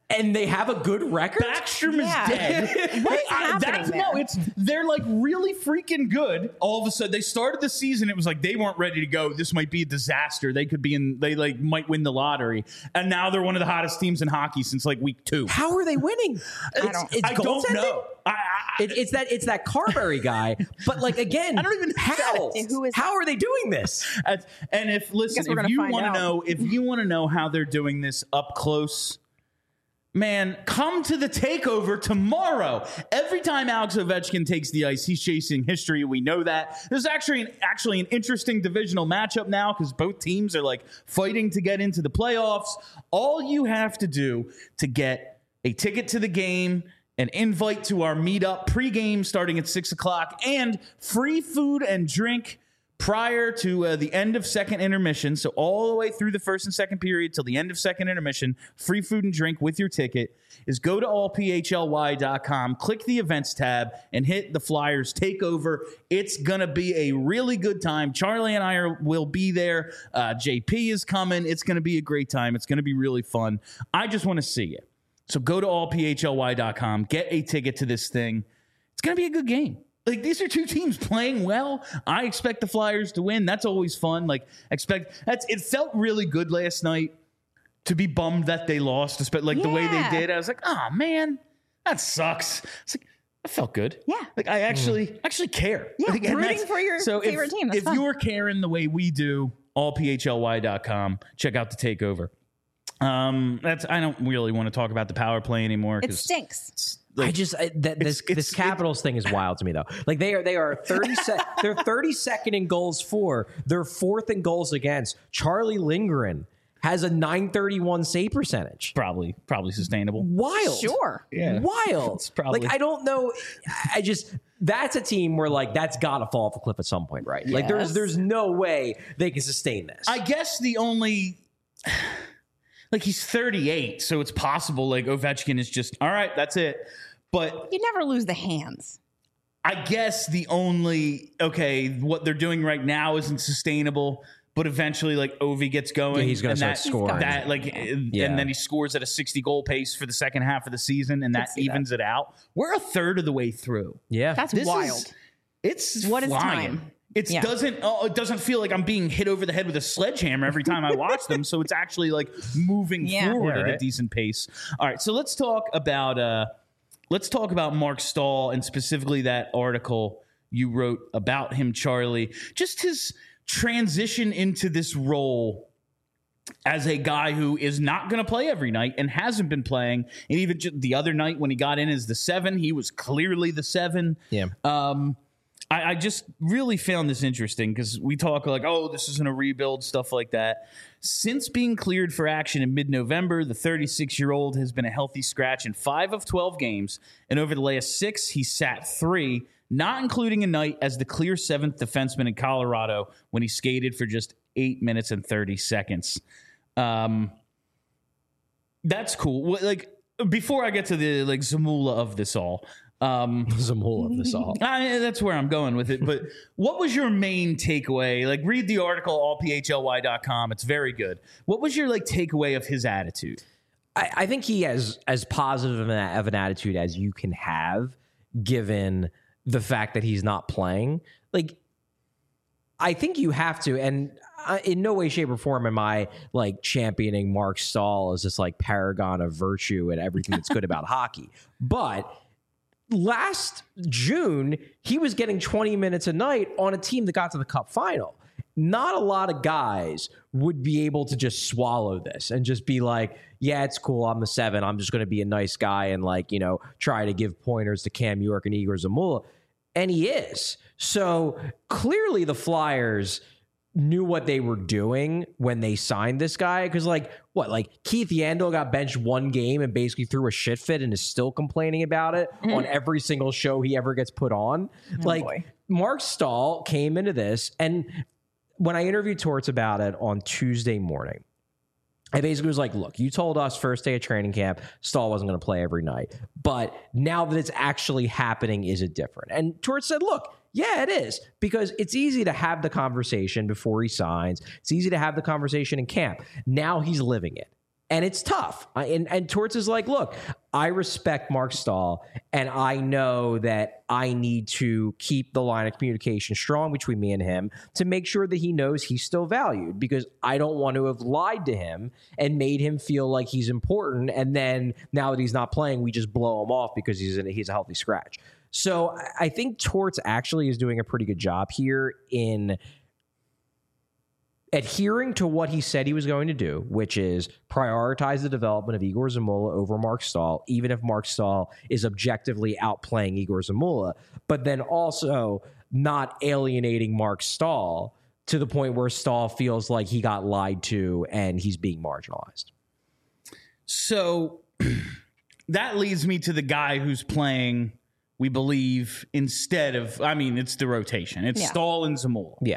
and they have a good record. Backstrom is dead. What is happening there? They're like really freaking good. All of a sudden, they started the season. It was like they weren't ready to go. This might be a disaster. They might win the lottery. And now they're one of the hottest teams in hockey since like week 2. How are they winning? I don't know. It's that Carberry guy, but like again, I don't even how? Who is How are they doing this? And if you want to know how they're doing this up close, man, come to the takeover tomorrow. Every time Alex Ovechkin takes the ice, he's chasing history. We know that. There's actually an interesting divisional matchup now because both teams are like fighting to get into the playoffs. All you have to do to get a ticket to the game, an invite to our meetup pregame starting at 6:00, and free food and drink prior to the end of second intermission. So all the way through the first and second period till the end of second intermission, free food and drink with your ticket is go to allphly.com, click the events tab, and hit the Flyers takeover. It's going to be a really good time. Charlie and I will be there. JP is coming. It's going to be a great time. It's going to be really fun. I just want to see it. So go to allphly.com, get a ticket to this thing. It's going to be a good game. Like, these are two teams playing well. I expect the Flyers to win. That's always fun. It felt really good last night to be bummed that they lost, the way they did. I was like, oh man, that sucks. It's like, I felt good. Yeah. Like I actually care. Yeah, like, rooting for your favorite team. That's if fun. you're caring the way we do, allphly.com, check out the takeover. I don't really want to talk about the power play anymore. It stinks. This Capitals thing is wild to me though. Like they are they're 32nd in goals for. They're 4th in goals against. Charlie Lindgren has a .931 save percentage. Probably sustainable. Wild. Sure. Yeah. Wild. It's probably. Like I don't know. That's a team where like that's got to fall off a cliff at some point, right? Yes. Like there's no way they can sustain this. I guess the only. Like, he's 38, so it's possible, like, Ovechkin is just, all right, that's it. But you never lose the hands. I guess what they're doing right now isn't sustainable, but eventually, like, Ovi gets going. Yeah, he's going to start scoring. And then he scores at a 60-goal pace for the second half of the season, and that evens it out. We're a third of the way through. Yeah. That's wild. It's what is flying. time? It doesn't feel like I'm being hit over the head with a sledgehammer every time I watch them. So it's actually like moving forward at a decent pace. All right, so let's talk about Mark Stahl and specifically that article you wrote about him, Charlie. Just his transition into this role as a guy who is not going to play every night and hasn't been playing. And even just the other night when he got in as the 7, he was clearly the 7. Yeah. I just really found this interesting because we talk like, oh, this isn't a rebuild, stuff like that. Since being cleared for action in mid-November, the 36-year-old has been a healthy scratch in 5 of 12 games. And over the last 6, he sat 3, not including a night as the clear 7th defenseman in Colorado when he skated for just 8 minutes and 30 seconds. That's cool. Like, before I get to the like Zamula of this all, Zamula of this all. That's where I'm going with it. But what was your main takeaway? Like, read the article, allphly.com. It's very good. What was your like takeaway of his attitude? I think he has as positive of an attitude as you can have, given the fact that he's not playing. Like, I think you have to, and in no way, shape, or form am I like championing Mark Stahl as this like paragon of virtue and everything that's good about hockey. But last June, he was getting 20 minutes a night on a team that got to the Cup final. Not a lot of guys would be able to just swallow this and just be like, yeah, it's cool. I'm the 7. I'm just going to be a nice guy and like, try to give pointers to Cam York and Igor Zamula. And he is. So clearly the Flyers knew what they were doing when they signed this guy. Because Keith Yandel got benched 1 game and basically threw a shit fit and is still complaining about it on every single show he ever gets put on. Boy. Mark Stahl came into this, and when I interviewed Torts about it on Tuesday morning, I basically was like, look, you told us first day of training camp, Stahl wasn't going to play every night. But now that it's actually happening, is it different? And Torts said, look, yeah, it is, because it's easy to have the conversation before he signs. It's easy to have the conversation in camp. Now he's living it. And it's tough. And Torts is like, look, I respect Mark Stahl, and I know that I need to keep the line of communication strong between me and him to make sure that he knows he's still valued, because I don't want to have lied to him and made him feel like he's important. And then now that he's not playing, we just blow him off because he's a healthy scratch. So I think Torts actually is doing a pretty good job here in adhering to what he said he was going to do, which is prioritize the development of Igor Zamula over Mark Stahl, even if Mark Stahl is objectively outplaying Igor Zamula, but then also not alienating Mark Stahl to the point where Stahl feels like he got lied to and he's being marginalized. So that leads me to the guy who's playing, we believe, instead of, it's the rotation. It's Stahl and Zamula. Yeah.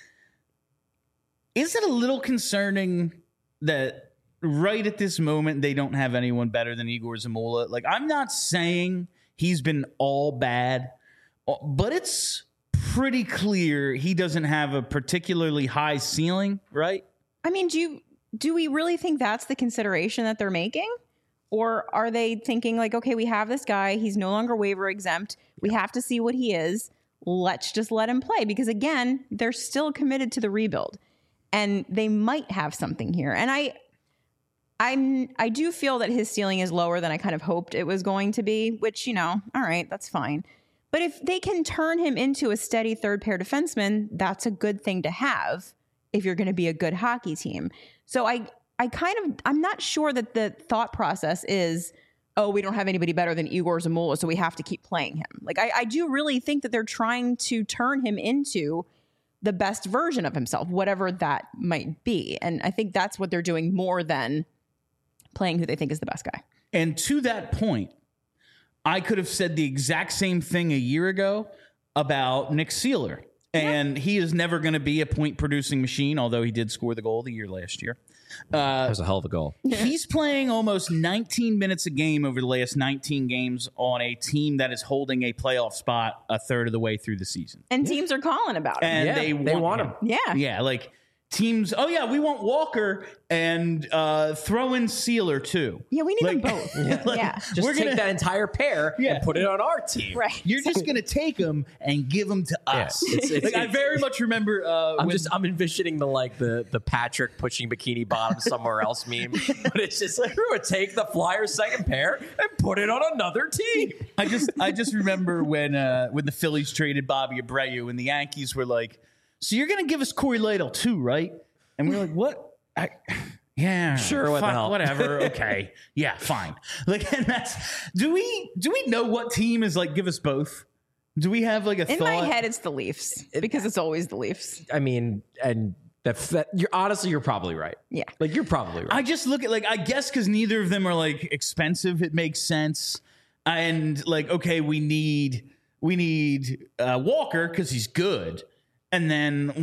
Is it a little concerning that right at this moment they don't have anyone better than Igor Zamula? Like, I'm not saying he's been all bad, but it's pretty clear he doesn't have a particularly high ceiling, right? Do we really think that's the consideration that they're making? Or are they thinking like, okay, we have this guy, he's no longer waiver exempt, we have to see what he is, let's just let him play? Because again, they're still committed to the rebuild. And they might have something here. And I do feel that his ceiling is lower than I kind of hoped it was going to be, which, all right, that's fine. But if they can turn him into a steady third pair defenseman, that's a good thing to have if you're going to be a good hockey team. So I'm not sure that the thought process is, oh, we don't have anybody better than Igor Zamula, so we have to keep playing him. Like, I do really think that they're trying to turn him into the best version of himself, whatever that might be. And I think that's what they're doing more than playing who they think is the best guy. And to that point, I could have said the exact same thing a year ago about Nick Seeler. And he is never going to be a point-producing machine, although he did score the goal the year last year. That was a hell of a goal. He's playing almost 19 minutes a game over the last 19 games on a team that is holding a playoff spot a third of the way through the season. And teams are calling about him. And they want him. Yeah. Yeah, like teams, we want Walker and throw in Seeler too. Yeah, we need them both. Yeah. Just take that entire pair and put it on our team. Right. You're just going to take them and give them to us. I very much remember. I'm envisioning the Patrick pushing bikini bottom somewhere else meme, but it's just like, we're going to take the Flyers second pair and put it on another team. I just remember when the Phillies traded Bobby Abreu and the Yankees were like, so you're going to give us Corey Lytle too, right? And we were like, what? Yeah, sure. What the hell? Whatever. Okay. Yeah, fine. Like, and that's, do we know what team is like, give us both? Do we have like a thought? In my head, it's the Leafs because it's always the Leafs. And you're probably right. Yeah. Like, you're probably right. I just look at, like, I guess because neither of them are like expensive, it makes sense. And like, okay, we need Walker because he's good. And then,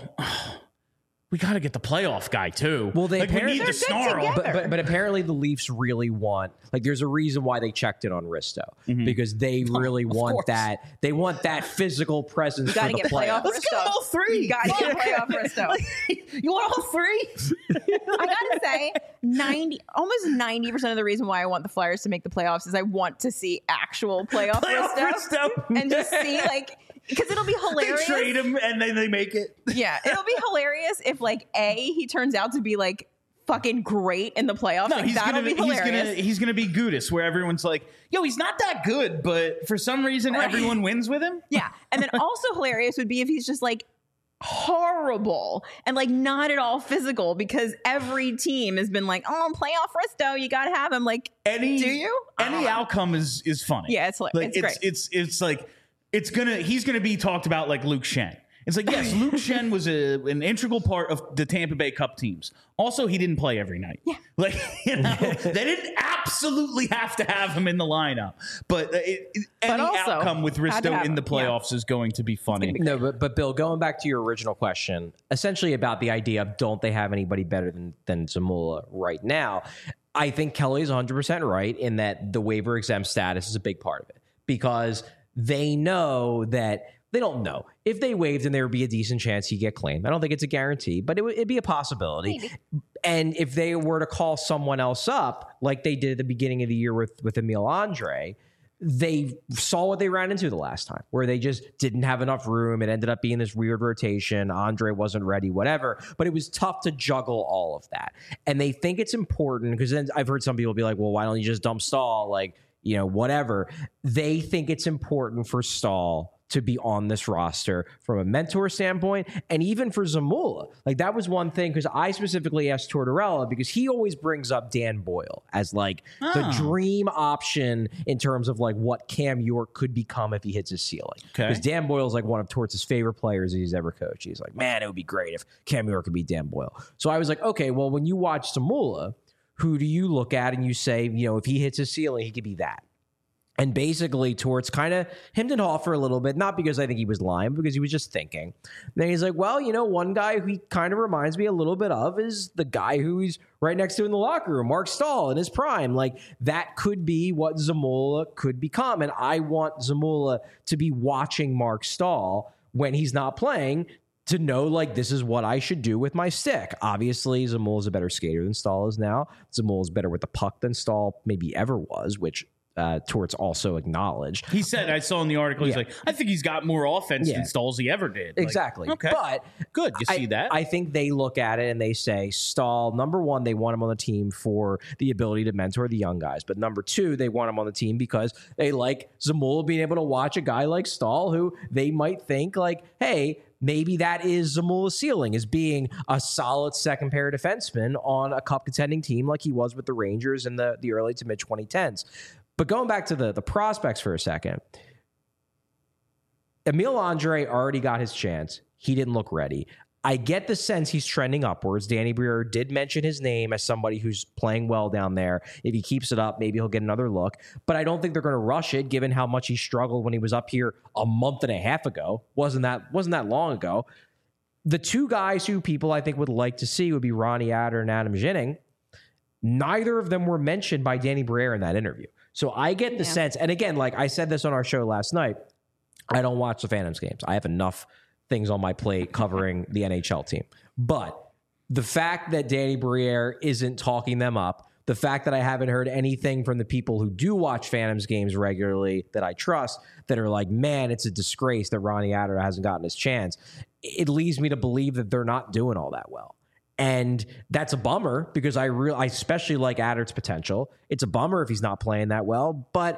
we got to get the playoff guy too. Well, we need the snarl. But apparently the Leafs really want, like, there's a reason why they checked it on Risto, because they really want that. They want that physical presence for the playoffs. Let's get all three. You got to get playoff Risto. You want all three? I got to say, almost 90% of the reason why I want the Flyers to make the playoffs is I want to see actual playoff Risto. And just see, like, because it'll be hilarious. They trade him and then they make it. Yeah, it'll be hilarious if, like, he turns out to be like fucking great in the playoffs. No, like, that'll be hilarious. He's gonna be Gudis, where everyone's like, yo, he's not that good, but for some reason everyone wins with him. Yeah. And then also hilarious would be if he's just like horrible and like not at all physical, because every team has been like, oh, playoff Risto, you gotta have him. Like, do you? Any outcome is funny. Yeah, it's hilarious. Like, it's like he's gonna be talked about like Luke Shen. It's like, yes, Luke Shen was an integral part of the Tampa Bay Cup teams. Also, he didn't play every night. Yeah. Like, they didn't absolutely have to have him in the lineup. But any outcome with Risto in the playoffs is going to be funny. No, but Bill, going back to your original question, essentially about the idea of don't they have anybody better than Zamula right now, I think Kelly is 100% right in that the waiver exempt status is a big part of it, because they know that they don't know. If they waived him, there would be a decent chance he'd get claimed. I don't think it's a guarantee, but it'd be a possibility. Maybe. And if they were to call someone else up, like they did at the beginning of the year with Emil Andre, they saw what they ran into the last time, where they just didn't have enough room. It ended up being this weird rotation. Andre wasn't ready, whatever. But it was tough to juggle all of that. And they think it's important, because then I've heard some people be like, well, why don't you just dump Stahl? Like, whatever. They think it's important for Stahl to be on this roster from a mentor standpoint, and even for Zamula. Like, that was one thing, because I specifically asked Tortorella, because he always brings up Dan Boyle as like the dream option in terms of like what Cam York could become if he hits his ceiling. Because Dan Boyle is like one of Torts' favorite players he's ever coached. He's like, man, it would be great if Cam York could be Dan Boyle. So I was like, okay, well, when you watch Zamula, who do you look at and you say, if he hits his ceiling, he could be that? And basically, Torts kind of hemmed and hawed for a little bit, not because I think he was lying, because he was just thinking. And then he's like, well, one guy who he kind of reminds me a little bit of is the guy who he's right next to in the locker room, Mark Stahl in his prime. Like, that could be what Zamula could become. And I want Zamula to be watching Mark Stahl when he's not playing, to know, like, this is what I should do with my stick. Obviously, Zamula is a better skater than Stahl is now. Zamula is better with the puck than Stahl maybe ever was, which Torts also acknowledged. He said, I saw in the article, he's like, I think he's got more offense than Stahl's he ever did. Exactly. Like, okay. But good. You see that? I think they look at it and they say, Stahl, number one, they want him on the team for the ability to mentor the young guys. But number two, they want him on the team because they like Zamula being able to watch a guy like Stahl, who they might think like, hey, maybe that is Zamula's ceiling, is being a solid second pair defenseman on a cup contending team like he was with the Rangers in the early to mid 2010s. But going back to the prospects for a second, Emil Andre already got his chance. He didn't look ready. I get the sense he's trending upwards. Danny Briere did mention his name as somebody who's playing well down there. If he keeps it up, maybe he'll get another look. But I don't think they're going to rush it, given how much he struggled when he was up here a month and a half ago. Wasn't that long ago. The two guys who people I think would like to see would be Ronnie Adder and Adam Ginning. Neither of them were mentioned by Danny Briere in that interview. So I get the sense, and again, like I said this on our show last night, I don't watch the Phantoms games. I have enough things on my plate covering the NHL team. But the fact that Danny Briere isn't talking them up, the fact that I haven't heard anything from the people who do watch Phantoms games regularly that I trust, that are like, man, it's a disgrace that Ronnie Adder hasn't gotten his chance, it leads me to believe that they're not doing all that well. And that's a bummer, because I especially like Adder's potential. It's a bummer if he's not playing that well, but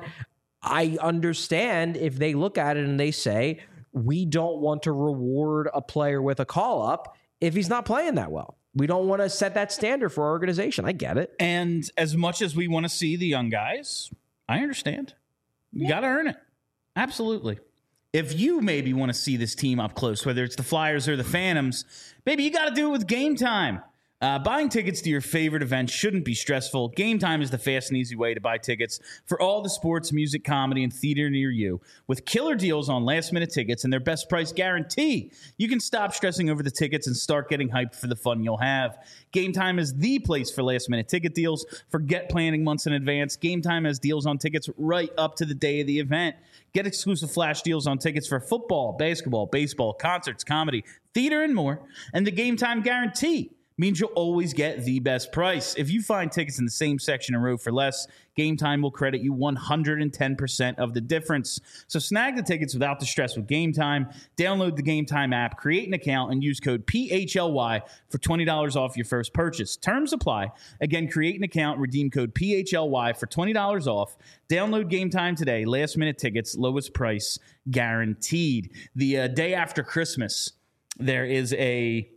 I understand if they look at it and they say, we don't want to reward a player with a call-up if he's not playing that well. We don't want to set that standard for our organization. I get it. And as much as we want to see the young guys, I understand. You got to earn it. Absolutely. If you maybe want to see this team up close, whether it's the Flyers or the Phantoms, baby, you got to do it with Game Time. Buying tickets to your favorite event shouldn't be stressful. Game Time is the fast and easy way to buy tickets for all the sports, music, comedy, and theater near you. With killer deals on last-minute tickets and their best price guarantee, you can stop stressing over the tickets and start getting hyped for the fun you'll have. Game Time is the place for last-minute ticket deals. Forget planning months in advance. Game Time has deals on tickets right up to the day of the event. Get exclusive flash deals on tickets for football, basketball, baseball, concerts, comedy, theater, and more. And the Game Time guarantee means you'll always get the best price. If you find tickets in the same section and row for less, Game Time will credit you 110% of the difference. So snag the tickets without the stress with Game Time. Download the Game Time app, create an account, and use code PHLY for $20 off your first purchase. Terms apply. Again, create an account, redeem code PHLY for $20 off. Download Game Time today. Last-minute tickets, lowest price guaranteed. The day after Christmas, there is a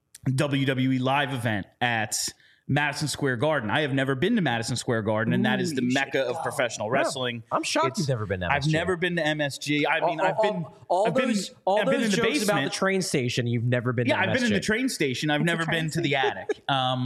WWE live event at Madison Square Garden. I have never been to Madison Square Garden, and that is the mecca of professional wrestling. I'm shocked you've never been to MSG. I've never been to MSG. I mean, I've been in the jokes basement about the train station. You've never been to MSG. I've been in the train station. I've never been to the attic.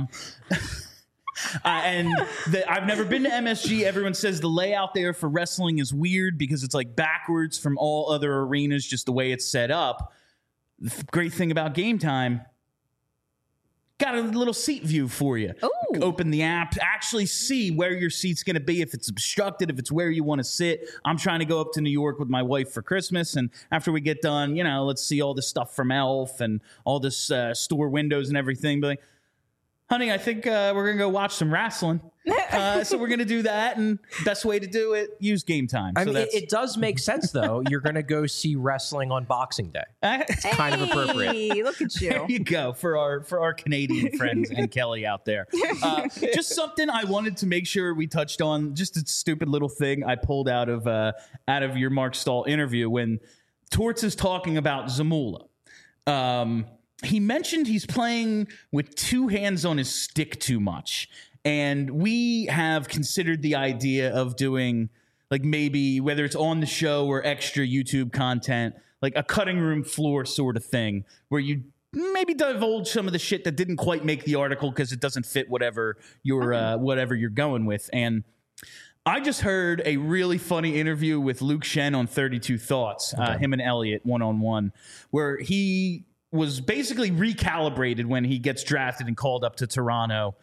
I've never been to MSG. Everyone says the layout there for wrestling is weird because it's like backwards from all other arenas, just the way it's set up. The great thing about Game Time, got a little seat view for you. Ooh. Open the app, actually see where your seat's going to be, if it's obstructed, if it's where you want to sit. I'm trying to go up to New York with my wife for Christmas, and after we get done, let's see all this stuff from Elf and all this store windows and everything. But honey, I think we're going to go watch some wrestling. So we're going to do that. And best way to do it, use Game Time. I So mean, it does make sense, though. You're going to go see wrestling on Boxing Day. It's kind of appropriate. Hey, look at There you. you go for our Canadian friends and Kelly out there. Just something I wanted to make sure we touched on. Just a stupid little thing I pulled out of your Mark Stahl interview when Torts is talking about Zamula. He mentioned he's playing with two hands on his stick too much. And we have considered the idea of doing, like, maybe whether it's on the show or extra YouTube content, like a cutting room floor sort of thing, where you maybe divulge some of the shit that didn't quite make the article because it doesn't fit whatever you're going with. And I just heard a really funny interview with Luke Shen on 32 Thoughts, him and Elliot one-on-one, where he was basically recalibrated when he gets drafted and called up to Toronto,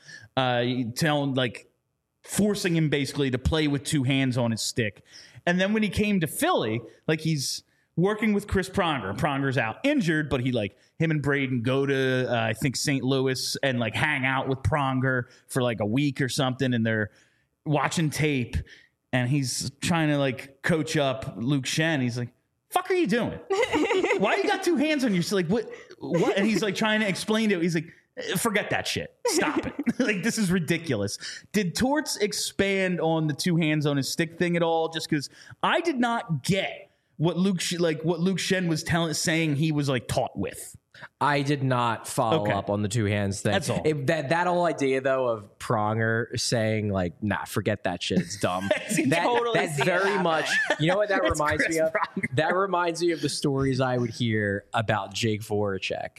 forcing him basically to play with two hands on his stick. And then when he came to Philly, like, he's working with Chris Pronger. Pronger's out injured, but him and Braden go to, I think, St. Louis and like hang out with Pronger for like a week or something. And they're watching tape and he's trying to like coach up Luke Shen. He's like, fuck are you doing? Why you got two hands on your, like, what? And he's like trying to explain to it. He's like, forget that shit. Stop it. Like, this is ridiculous. Did Torts expand on the two hands on his stick thing at all? Just because I did not get what Luke Shen was saying he was like taught with. I did not follow up on the two hands thing. That's all. That whole idea, though, of Pronger saying, like, nah, forget that shit. It's dumb. That very much, you know what that reminds me of? Pronger. That reminds me of the stories I would hear about Jake Voracek.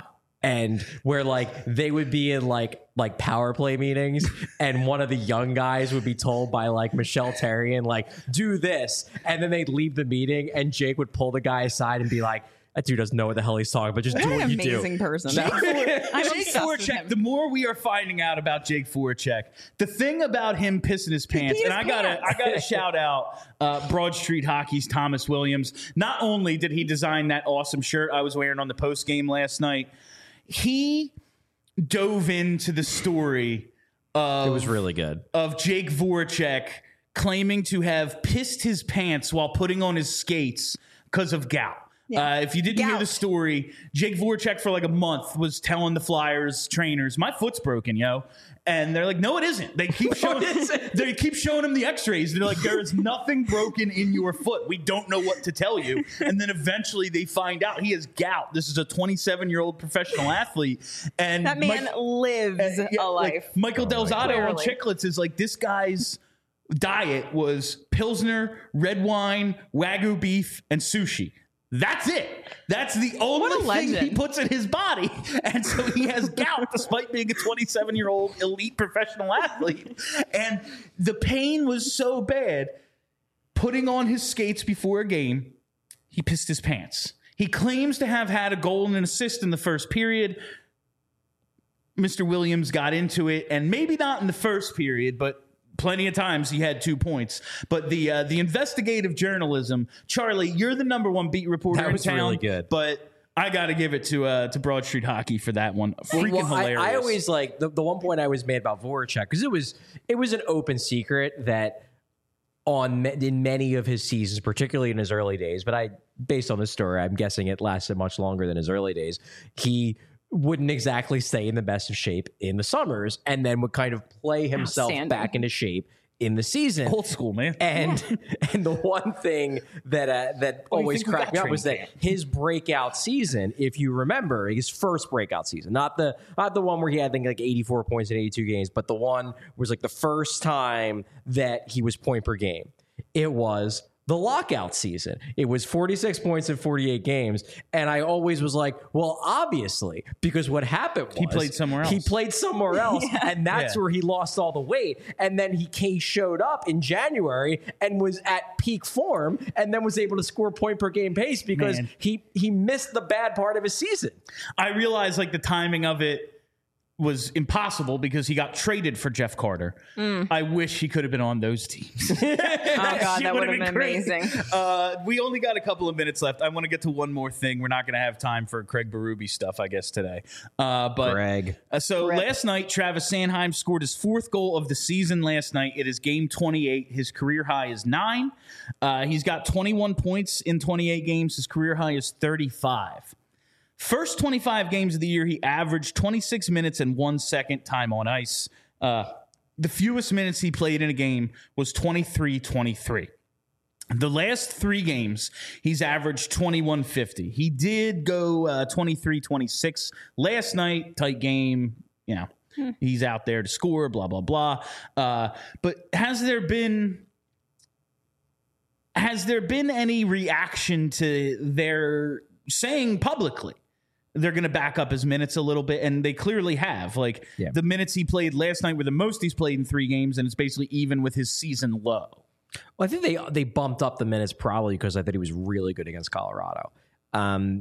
And where like they would be in like power play meetings and one of the young guys would be told by like Michelle Therrien, like, do this. And then they'd leave the meeting and Jake would pull the guy aside and be like, that dude doesn't know what the hell he's talking about. Just do what you do. Amazing person. Jake obsessed with Voracek, him. the more we are finding out about Jake Voracek, the thing about him pissing his pants, and I gotta shout out Broad Street Hockey's Thomas Williams. Not only did he design that awesome shirt I was wearing on the post game last night, he dove into the story It was really good. of Jake Voracek claiming to have pissed his pants while putting on his skates because of gout. Yeah. If you didn't hear the story, Jake Voracek for like a month was telling the Flyers trainers, my foot's broken, yo. And they're like, no, it isn't. They keep showing him the x-rays. They're like, there is nothing broken in your foot. We don't know what to tell you. And then eventually they find out he has gout. This is a 27-year-old professional athlete. And That man lives a life. Like Michael Delzato on Clearly. Chicklets is like, this guy's diet was Pilsner, red wine, Wagyu beef, and sushi. That's it. That's the only thing he legend. puts in his body. And so he has gout despite being a 27-year-old elite professional athlete. And the pain was so bad, putting on his skates before a game, he pissed his pants. He claims to have had a goal and an assist in the first period. Mr. Williams got into it, and maybe not in the first period, but plenty of times he had 2 points. But the investigative journalism, Charlie, you're the number one beat reporter That was in town. really good. But I got to give it to Broad Street Hockey for that one. Freaking hilarious. I always like the one point I was made about Voracek because it was an open secret that in many of his seasons, particularly in his early days, but based on this story, I'm guessing it lasted much longer than his early days. He wouldn't exactly stay in the best of shape in the summers and then would kind of play himself back into shape in the season. Old school, man. And the one thing that always cracked me up was that his breakout season, if you remember, his first breakout season, not the one where he had, I think, like 84 points in 82 games, but the one was like the first time that he was point per game. It was the lockout season. It was 46 points in 48 games. And I always was like, well, obviously, because what happened was He played somewhere else. And that's where he lost all the weight. And then he showed up in January and was at peak form and then was able to score point per game pace because he missed the bad part of his season. I realized like the timing of it was impossible because he got traded for Jeff Carter. I wish he could have been on those teams. Oh, God, that would have been amazing. We only got a couple of minutes left. I want to get to one more thing. We're not going to have time for Craig Berube stuff, I guess, today. Greg. Last night, Travis Sanheim scored his 4th goal of the season last night. It is game 28. His career high is 9. He's got 21 points in 28 games. His career high is 35. First 25 games of the year, he averaged 26 minutes and 1 second time on ice. The fewest minutes he played in a game was 23-23. The last 3 games, he's averaged 21.50. He did go 23-26 last night. Tight game, he's out there to score, blah, blah, blah. But has there been any reaction to their saying publicly they're going to back up his minutes a little bit? And they clearly have. The minutes he played last night were the most he's played in 3 games, and it's basically even with his season low. Well, I think they bumped up the minutes probably because I thought he was really good against Colorado. I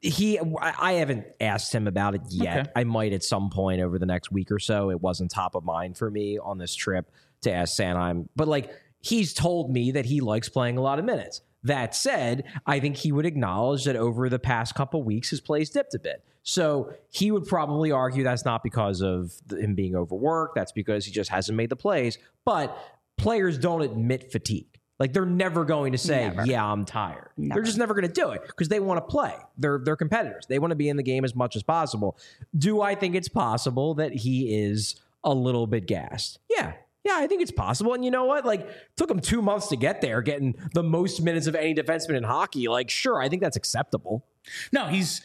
haven't asked him about it yet. Okay. I might at some point over the next week or so. It wasn't top of mind for me on this trip to ask Sanheim. But he's told me that he likes playing a lot of minutes. That said, I think he would acknowledge that over the past couple weeks, his play's dipped a bit. So he would probably argue that's not because of him being overworked. That's because he just hasn't made the plays. But players don't admit fatigue. They're never going to say, yeah, I'm tired. Never. They're just never going to do it because they want to play. They're competitors. They want to be in the game as much as possible. Do I think it's possible that he is a little bit gassed? Yeah, I think it's possible. And you know what? Took him 2 months to get there, getting the most minutes of any defenseman in hockey. Sure, I think that's acceptable. No, he's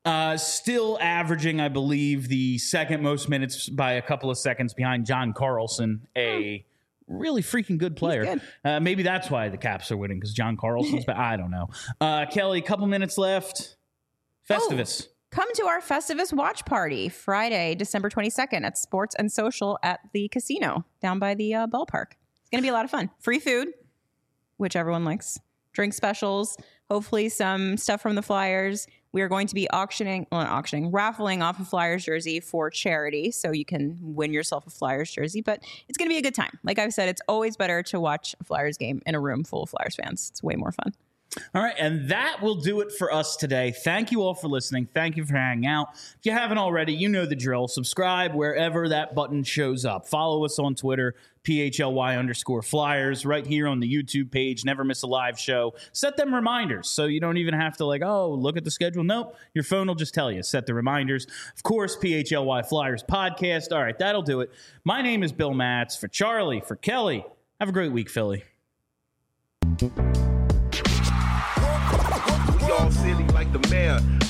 still averaging, I believe, the second most minutes by a couple of seconds behind John Carlson, a really freaking good player. Good. Maybe that's why the Caps are winning, because John Carlson's back. I don't know. Kelly, a couple minutes left. Festivus. Come to our Festivus watch party Friday, December 22nd at Sports and Social at the casino down by the ballpark. It's going to be a lot of fun. Free food, which everyone likes. Drink specials, hopefully some stuff from the Flyers. We are going to be raffling off a Flyers jersey for charity, so you can win yourself a Flyers jersey. But it's going to be a good time. Like I've said, it's always better to watch a Flyers game in a room full of Flyers fans. It's way more fun. All right, and that will do it for us today. Thank you all for listening. Thank you for hanging out. If you haven't already, you know the drill. Subscribe wherever that button shows up. Follow us on Twitter, PHLY_Flyers, right here on the YouTube page. Never miss a live show. Set them reminders so you don't even have to look at the schedule. Nope, your phone will just tell you. Set the reminders. Of course, PHLY Flyers podcast. All right, that'll do it. My name is Bill Matz. For Charlie, for Kelly, have a great week, Philly. Y'all silly like the mayor.